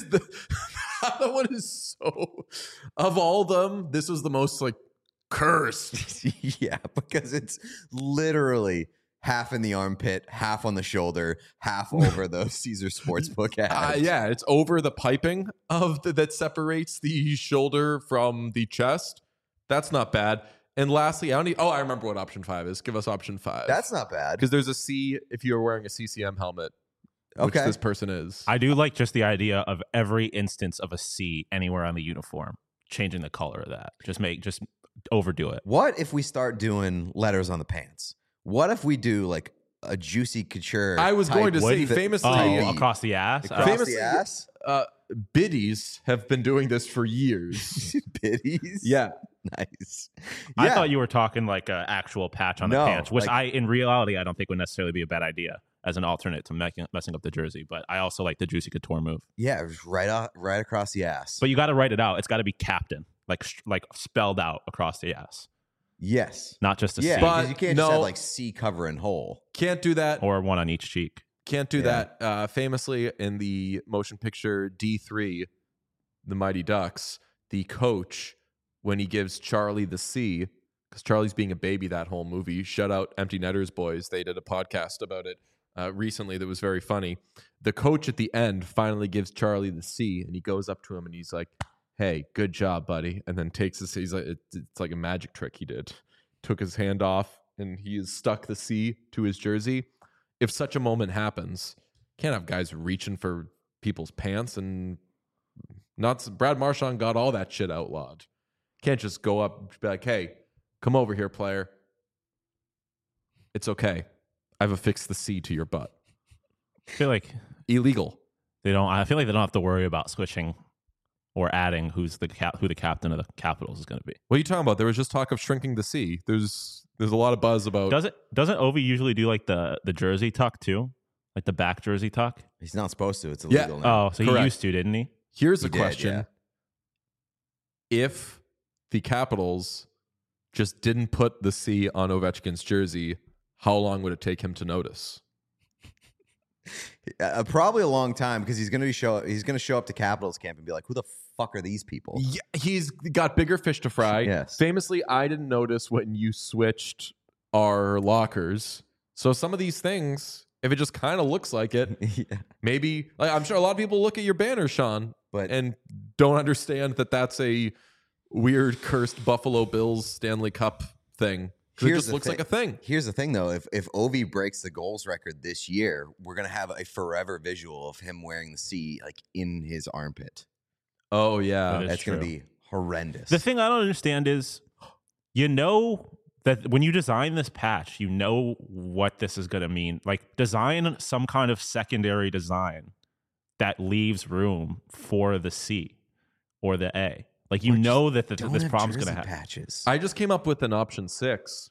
That one is so. Of all them, this was the most like cursed. Yeah, because it's literally half in the armpit, half on the shoulder, half over the Caesar Sportsbook ad. Yeah, it's over the piping of that separates the shoulder from the chest. That's not bad. And lastly, I remember what option 5 is. Give us option 5. That's not bad. because there's a C if you're wearing a CCM helmet, which Okay. this person is. I do like just the idea of every instance of a C anywhere on the uniform, changing the color of that. Just overdo it. What if we start doing letters on the pants? What if we do like a Juicy Couture? I was type going to say fit- famously. Oh, type across the ass. across famously- the ass. Biddies have been doing this for years. Biddies. Yeah. Nice. I Yeah. thought you were talking like an actual patch on the No, pants, which like- in reality, I don't think would necessarily be a bad idea as an alternate to messing up the jersey. But I also like the Juicy Couture move. Yeah, it was right across the ass. But you got to write it out. It's got to be captain, like spelled out across the ass, yes. not just a Yeah, C But because you can't no- just have like C cover and hole. Can't do that. or one on each cheek. Can't do Yeah. that. Famously in the motion picture D3, The Mighty Ducks, the coach, when he gives Charlie the C, because Charlie's being a baby that whole movie, shout out Empty Netters Boys. They did a podcast about it recently that was very funny. The coach at the end finally gives Charlie the C, and he goes up to him and he's like, "Hey, good job, buddy." And then takes his, he's like, it's like a magic trick he did. Took his hand off and he has stuck the C to his jersey. If such a moment happens, can't have guys reaching for people's pants and not. Brad Marchand got all that shit outlawed. Can't just go up and be like, "Hey, come over here, player. It's okay. I've affixed the C to your butt." I feel like Illegal. I feel like they don't have to worry about switching or adding who the captain of the Capitals is going to be. What are you talking about? There was just talk of shrinking the C. There's a lot of buzz about. Doesn't Ovi usually do like the jersey tuck too, like the back jersey tuck? He's not supposed to. It's Yeah. illegal now. Oh, so Correct. he used to, didn't he? Here's He a did, question: yeah. If the Capitals just didn't put the C on Ovechkin's jersey, how long would it take him to notice? Probably a long time because he's going to show up to Capitals camp and be like, "Who the fuck are these people?" Yeah, he's got bigger fish to fry. Yes. Famously, I didn't notice when you switched our lockers. So some of these things, if it just kind of looks like it, Yeah. maybe like I'm sure a lot of people look at your banner, Sean, But and don't understand that that's a weird cursed Buffalo Bills Stanley Cup thing. 'Cause it Here's just the looks like a thing. here's the thing, though. If Ovi breaks the goals record this year, we're gonna have a forever visual of him wearing the C like in his armpit. Oh yeah. That is That's gonna true. be horrendous. The thing I don't understand is, you know that when you design this patch, you know what this is going to mean. Like, design some kind of secondary design that leaves room for the C or the A. Like, you Or know that Don't this have problem's going to jersey happen. patches. I just came up with an option 6.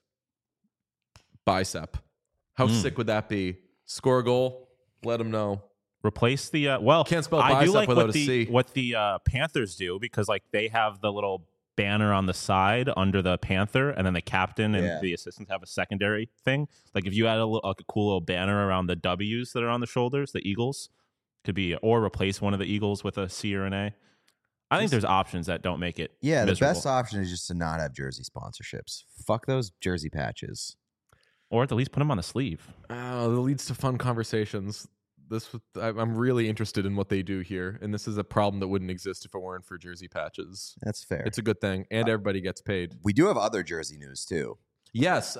Bicep. How sick would that be? Score a goal, let them know. Replace the Can't spell I do bicep like without what a C. what the Panthers do, because like they have the little banner on the side under the Panther, and then the captain and Yeah. the assistants have a secondary thing. Like if you had like a cool little banner around the W's that are on the shoulders, the Eagles could be, or replace one of the Eagles with a C or an A. I think there's options that don't make it. Yeah, the miserable. best option is just to not have jersey sponsorships. Fuck those jersey patches. Or at least put them on the sleeve. Oh, that leads to fun conversations. I'm really interested in what they do here, and this is a problem that wouldn't exist if it weren't for jersey patches. That's fair. It's a good thing, and everybody gets paid. We do have other jersey news too. Yes.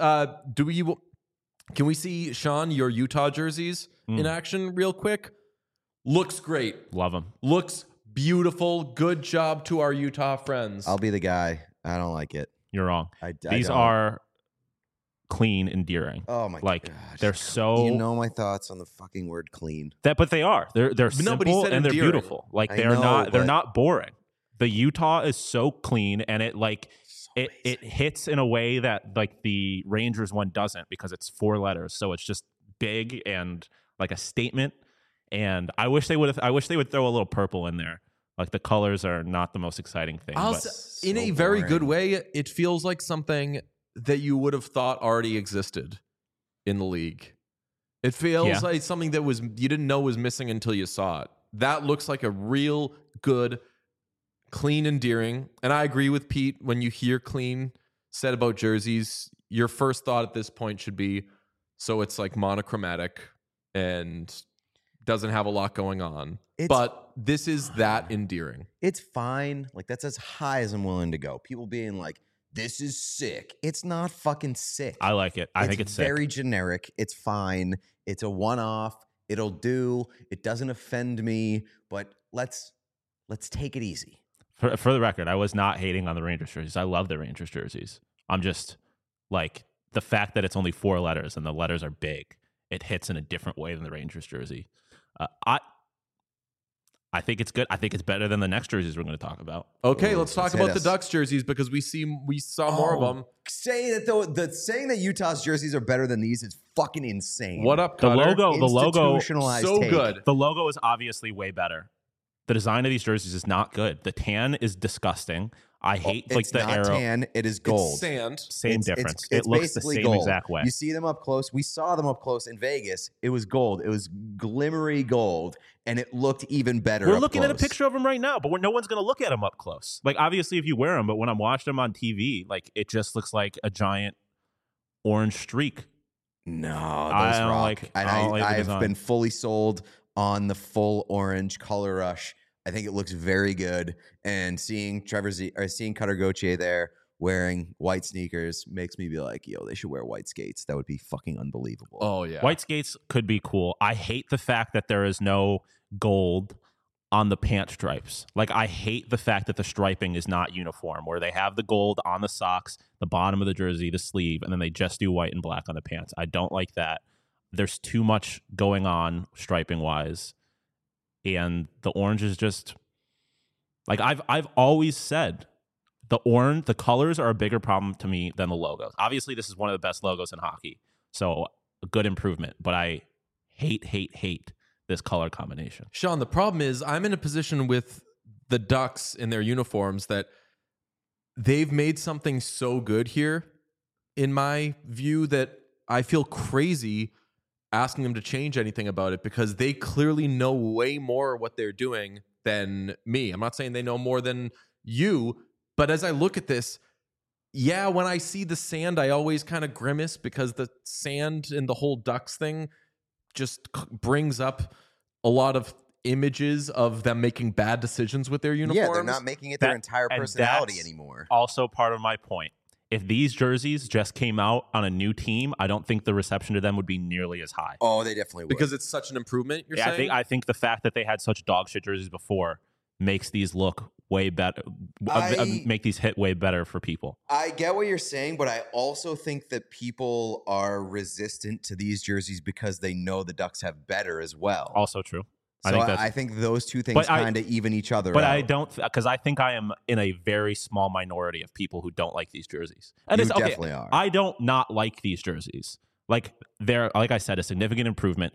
Can we see, Sean, your Utah jerseys in action real quick? Looks great. Love them. Looks beautiful. Good job to our Utah friends. I'll be the guy. I don't like it. You're wrong. I These don't. are clean, endearing. Oh my like god. they're so You know my thoughts on the fucking word clean. but they are. They're nobody simple said and they're endearing. beautiful. Like I they're know, they're but- not boring. The Utah is so clean, and it like it hits in a way that like the Rangers one doesn't, because it's 4 letters, so it's just big and like a statement. And I wish they would throw a little purple in there. Like the colors are not the most exciting thing. But in a very good way, it feels like something that you would have thought already existed in the league. It feels like something that you didn't know was missing until you saw it. That looks like a real good, clean endearing. And I agree with Pete. When you hear clean said about jerseys, your first thought at this point should be, so it's like monochromatic and doesn't have a lot going on. But this is that endearing. It's fine. Like, that's as high as I'm willing to go. People being like, this is sick. It's not fucking sick. I like it. I think it's sick. Very generic. It's fine. It's a one-off. It'll do. It doesn't offend me, but let's take it easy. For the record, I was not hating on the Rangers jerseys. I love the Rangers jerseys. I'm just like, the fact that it's only 4 letters and the letters are big, it hits in a different way than the Rangers jersey. I think it's good. I think it's better than the next jerseys we're going to talk about. Okay, let's talk about the us. Ducks jerseys because we saw more of them. Saying that Utah's jerseys are better than these is fucking insane. What up, The Cutter? logo, so take. good. the logo is obviously way better. The design of these jerseys is not good. The tan is disgusting. I hate like It's the not arrow. tan. It is gold. It's sand. Same difference. It's It looks the basically same gold. exact way. You see them up close. We saw them up close in Vegas. It was gold. It was glimmery gold, and it looked even better. We're up looking at a close. picture of them right now, but no one's going to look at them up close. Like, obviously, if you wear them, but when I'm watching them on TV, like, it just looks like a giant orange streak. No, those I don't rock. like- And I don't like the I've design. been fully sold on the full orange color rush. I think it looks very good. And seeing seeing Cutter Gauthier there wearing white sneakers makes me be like, yo, they should wear white skates. That would be fucking unbelievable. Oh, yeah. White skates could be cool. I hate the fact that there is no gold on the pant stripes. Like, I hate the fact that the striping is not uniform, where they have the gold on the socks, the bottom of the jersey, the sleeve, and then they just do white and black on the pants. I don't like that. There's too much going on striping wise. And the orange is just like, I've always said the colors are a bigger problem to me than the logos. Obviously, this is one of the best logos in hockey, so a good improvement. But I hate this color combination. Sean, the problem is I'm in a position with the Ducks in their uniforms that they've made something so good here, in my view, that I feel crazy asking them to change anything about it because they clearly know way more what they're doing than me. I'm not saying they know more than you, but as I look at this, yeah, when I see the sand, I always kind of grimace because the sand and the whole Ducks thing just brings up a lot of images of them making bad decisions with their uniforms. Yeah, they're not making it their entire and personality that's anymore. Also part of my point. If these jerseys just came out on a new team, I don't think the reception to them would be nearly as high. Oh, they definitely would. Because it's such an improvement, you're Yeah, saying? I think the fact that they had such dog shit jerseys before makes these look way better, make these hit way better for people. I get what you're saying, but I also think that people are resistant to these jerseys because they know the Ducks have better as well. Also true. So I think those two things kind of even each other But out. I don't, because I think I am in a very small minority of people who don't like these jerseys. And You it's okay. definitely are. I don't not like these jerseys. Like, they're, like I said, a significant improvement.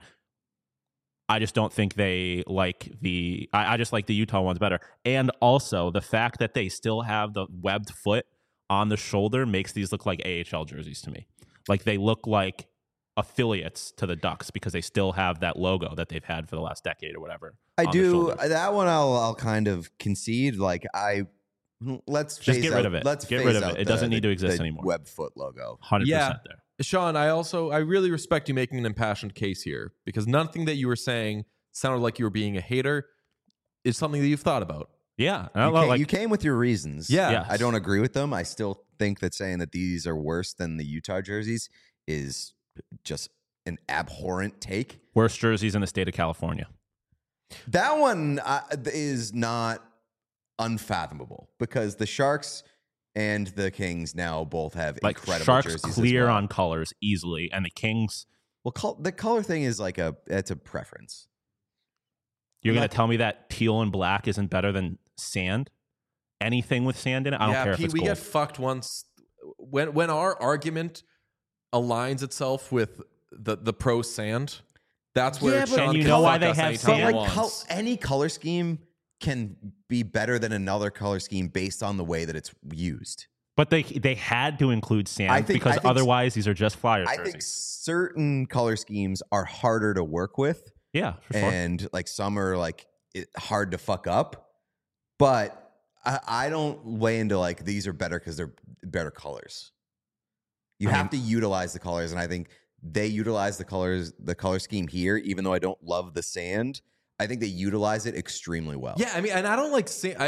I just don't think they like I just like the Utah ones better. And also the fact that they still have the webbed foot on the shoulder makes these look like AHL jerseys to me. Like, they look like affiliates to the Ducks because they still have that logo that they've had for the last decade or whatever. I on the do shoulders. that one. I'll kind of concede. Like let's Just phase get rid out- of it. Let's Get phase rid of out it. It doesn't need to exist the anymore. Web foot logo. 100% Yeah. there. Sean, I really respect you making an impassioned case here because nothing that you were saying sounded like you were being a hater. It's something that you've thought about. Yeah. You came with your reasons. Yeah. Yes. I don't agree with them. I still think that saying that these are worse than the Utah jerseys is just an abhorrent take. Worst jerseys in the state of California. That one is not unfathomable because the Sharks and the Kings now both have Like, incredible Sharks jerseys. clear as well. on colors easily, and the Kings. Well, the color thing is like it's a preference. You're I'm going not- to tell me that teal and black isn't better than sand? Anything with sand in it? I don't care if Pete, it's we gold. get fucked once when our argument aligns itself with the pro sand. That's where Yeah, but- Sean And you can know why fuck they us have anytime he sand? But like wants. any color scheme can be better than another color scheme based on the way that it's used. But they had to include sand I think- because I think- otherwise these are just Flyers I jerseys. think certain color schemes are harder to work with, Yeah, for sure. and like some are like hard to fuck up. But I don't weigh into like these are better because they're better colors. You have to utilize the colors, and I think they utilize the color scheme here. Even though I don't love the sand, I think they utilize it extremely well. Yeah, I mean, and I don't like sand.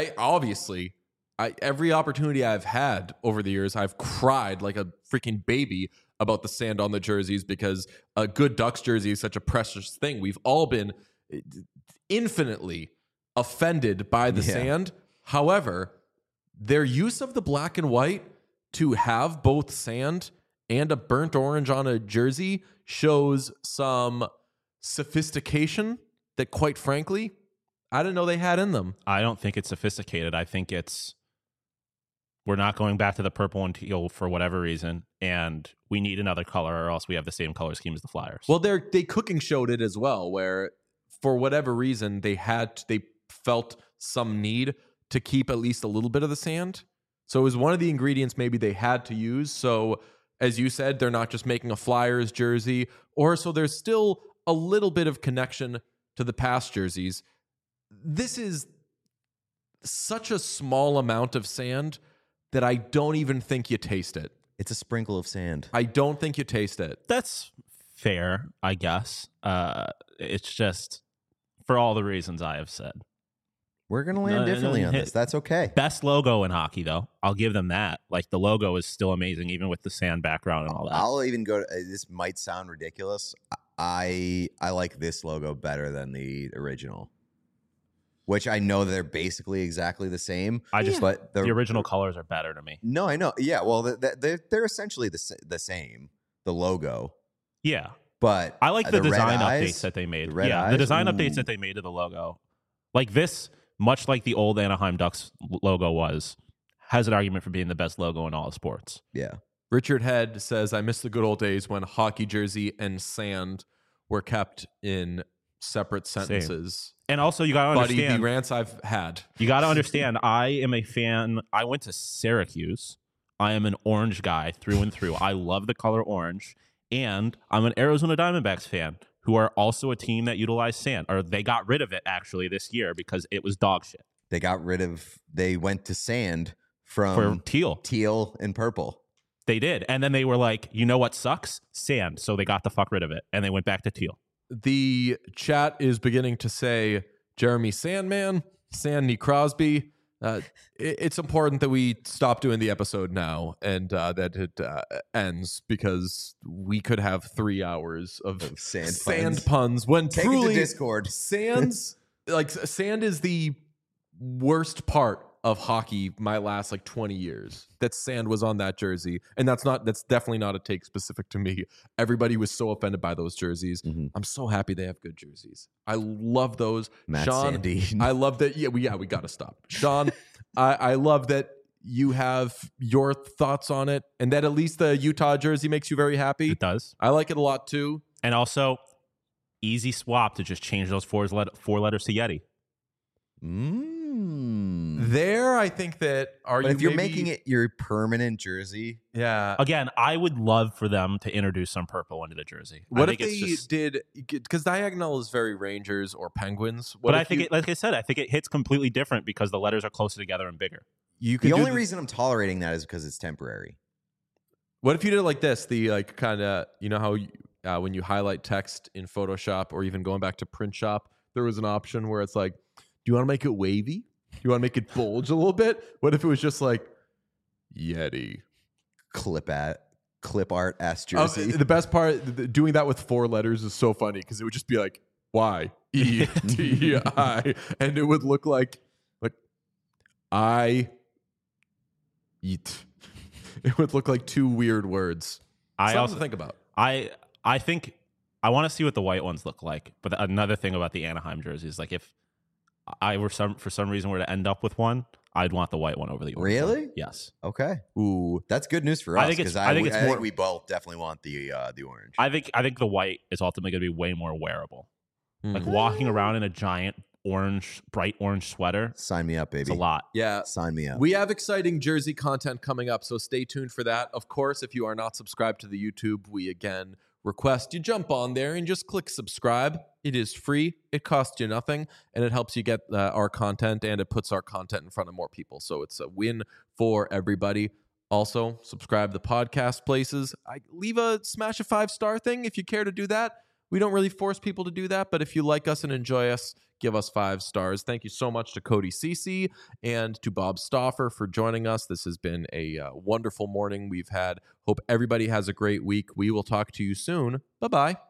Every opportunity I've had over the years, I've cried like a freaking baby about the sand on the jerseys because a good Ducks jersey is such a precious thing. We've all been infinitely offended by the Yeah. sand. However, their use of the black and white to have both sand and a burnt orange on a jersey shows some sophistication that, quite frankly, I didn't know they had in them. I don't think it's sophisticated. I think we're not going back to the purple and teal for whatever reason, and we need another color or else we have the same color scheme as the Flyers. Well, they cooking showed it as well, where for whatever reason they felt some need to keep at least a little bit of the sand. So it was one of the ingredients maybe they had to use. So as you said, they're not just making a Flyers jersey, or so there's still a little bit of connection to the past jerseys. This is such a small amount of sand that I don't even think you taste it. It's a sprinkle of sand. I don't think you taste it. That's fair, I guess. It's just for all the reasons I have said. We're gonna land No, differently on hey, this. That's okay. Best logo in hockey, though. I'll give them that. Like, the logo is still amazing, even with the sand background and all that. I'll even go. This might sound ridiculous. I like this logo better than the original, which I know they're basically exactly the same. But the original colors are better to me. No, I know. Yeah, well, they're essentially the same. The logo, Yeah. but I like the red design eyes, updates that they made. the red Yeah, eyes, the design updates ooh. that they made to the logo. Like this, much like the old Anaheim Ducks logo was, has an argument for being the best logo in all of sports. Yeah, Richard Head says, I miss the good old days when hockey jersey and sand were kept in separate sentences. And also, you got to Buddy, the understand. rants I've had. You got to understand, I am a fan. I went to Syracuse. I am an orange guy through and through. I love the color orange. And I'm an Arizona Diamondbacks fan who are also a team that utilized sand. Or they got rid of it, actually, this year because it was dog shit. they went to sand For from teal. and purple. They did. And then they were like, you know what sucks? Sand. So they got the fuck rid of it. And they went back to teal. The chat is beginning to say Jeremy Sandman, Sandy Crosby. It's important that we stop doing the episode now and that it ends because we could have 3 hours of Sand puns when Take truly it to Discord. sand is the worst part of hockey my last 20 years. That sand was on that jersey, and that's definitely not a take specific to me. Everybody was so offended by those jerseys. Mhm. I'm so happy they have good jerseys. I love those. Matt Sean, Sandy. I love that. We got to stop. Sean, I love that you have your thoughts on it, and that at least the Utah jersey makes you very happy. It does. I like it a lot too. And also, easy swap to just change those four letters to Yeti. There, I think that But if you're making it your permanent jersey, yeah. Again, I would love for them to introduce some purple into the jersey. What I if think they it's just, did? Because diagonal is very Rangers or Penguins. But I think, like I said, I think it hits completely different because the letters are closer together and bigger. you could the do only reason I'm tolerating that is because it's temporary. What if you did it like this? The kind of how when you highlight text in Photoshop or even going back to print shop, there was an option where it's like, do you want to make it wavy? Do you want to make it bulge a little bit? What if it was just like Yeti? Clip art ass jersey. The best part, doing that with 4 letters is so funny because it would just be like YETI, and it would look like I eat. It would look like 2 weird words. I Something also to think about. I think I want to see what the white ones look like. But another thing about the Anaheim jersey is like if I were for some reason were to end up with one, I'd want the white one over the orange. Really? One. Yes. Okay. Ooh. That's good news for I us think it's- because I think it's more- we both definitely want the orange. I think the white is ultimately going to be way more wearable. Like Mhm. walking around in a giant bright orange sweater. Sign me up, baby. It's a lot. Yeah. Sign me up. We have exciting jersey content coming up, so stay tuned for that. Of course, if you are not subscribed to the YouTube, we again request you jump on there and just click subscribe. It is free. It costs you nothing, and it helps you get our content, and it puts our content in front of more people. So it's a win for everybody. Also, subscribe to the podcast places. Smash a 5-star thing if you care to do that. We don't really force people to do that, but if you like us and enjoy us, give us 5 stars. Thank you so much to Cody Cece and to Bob Stauffer for joining us. This has been a wonderful morning we've had. Hope everybody has a great week. We will talk to you soon. Bye-bye.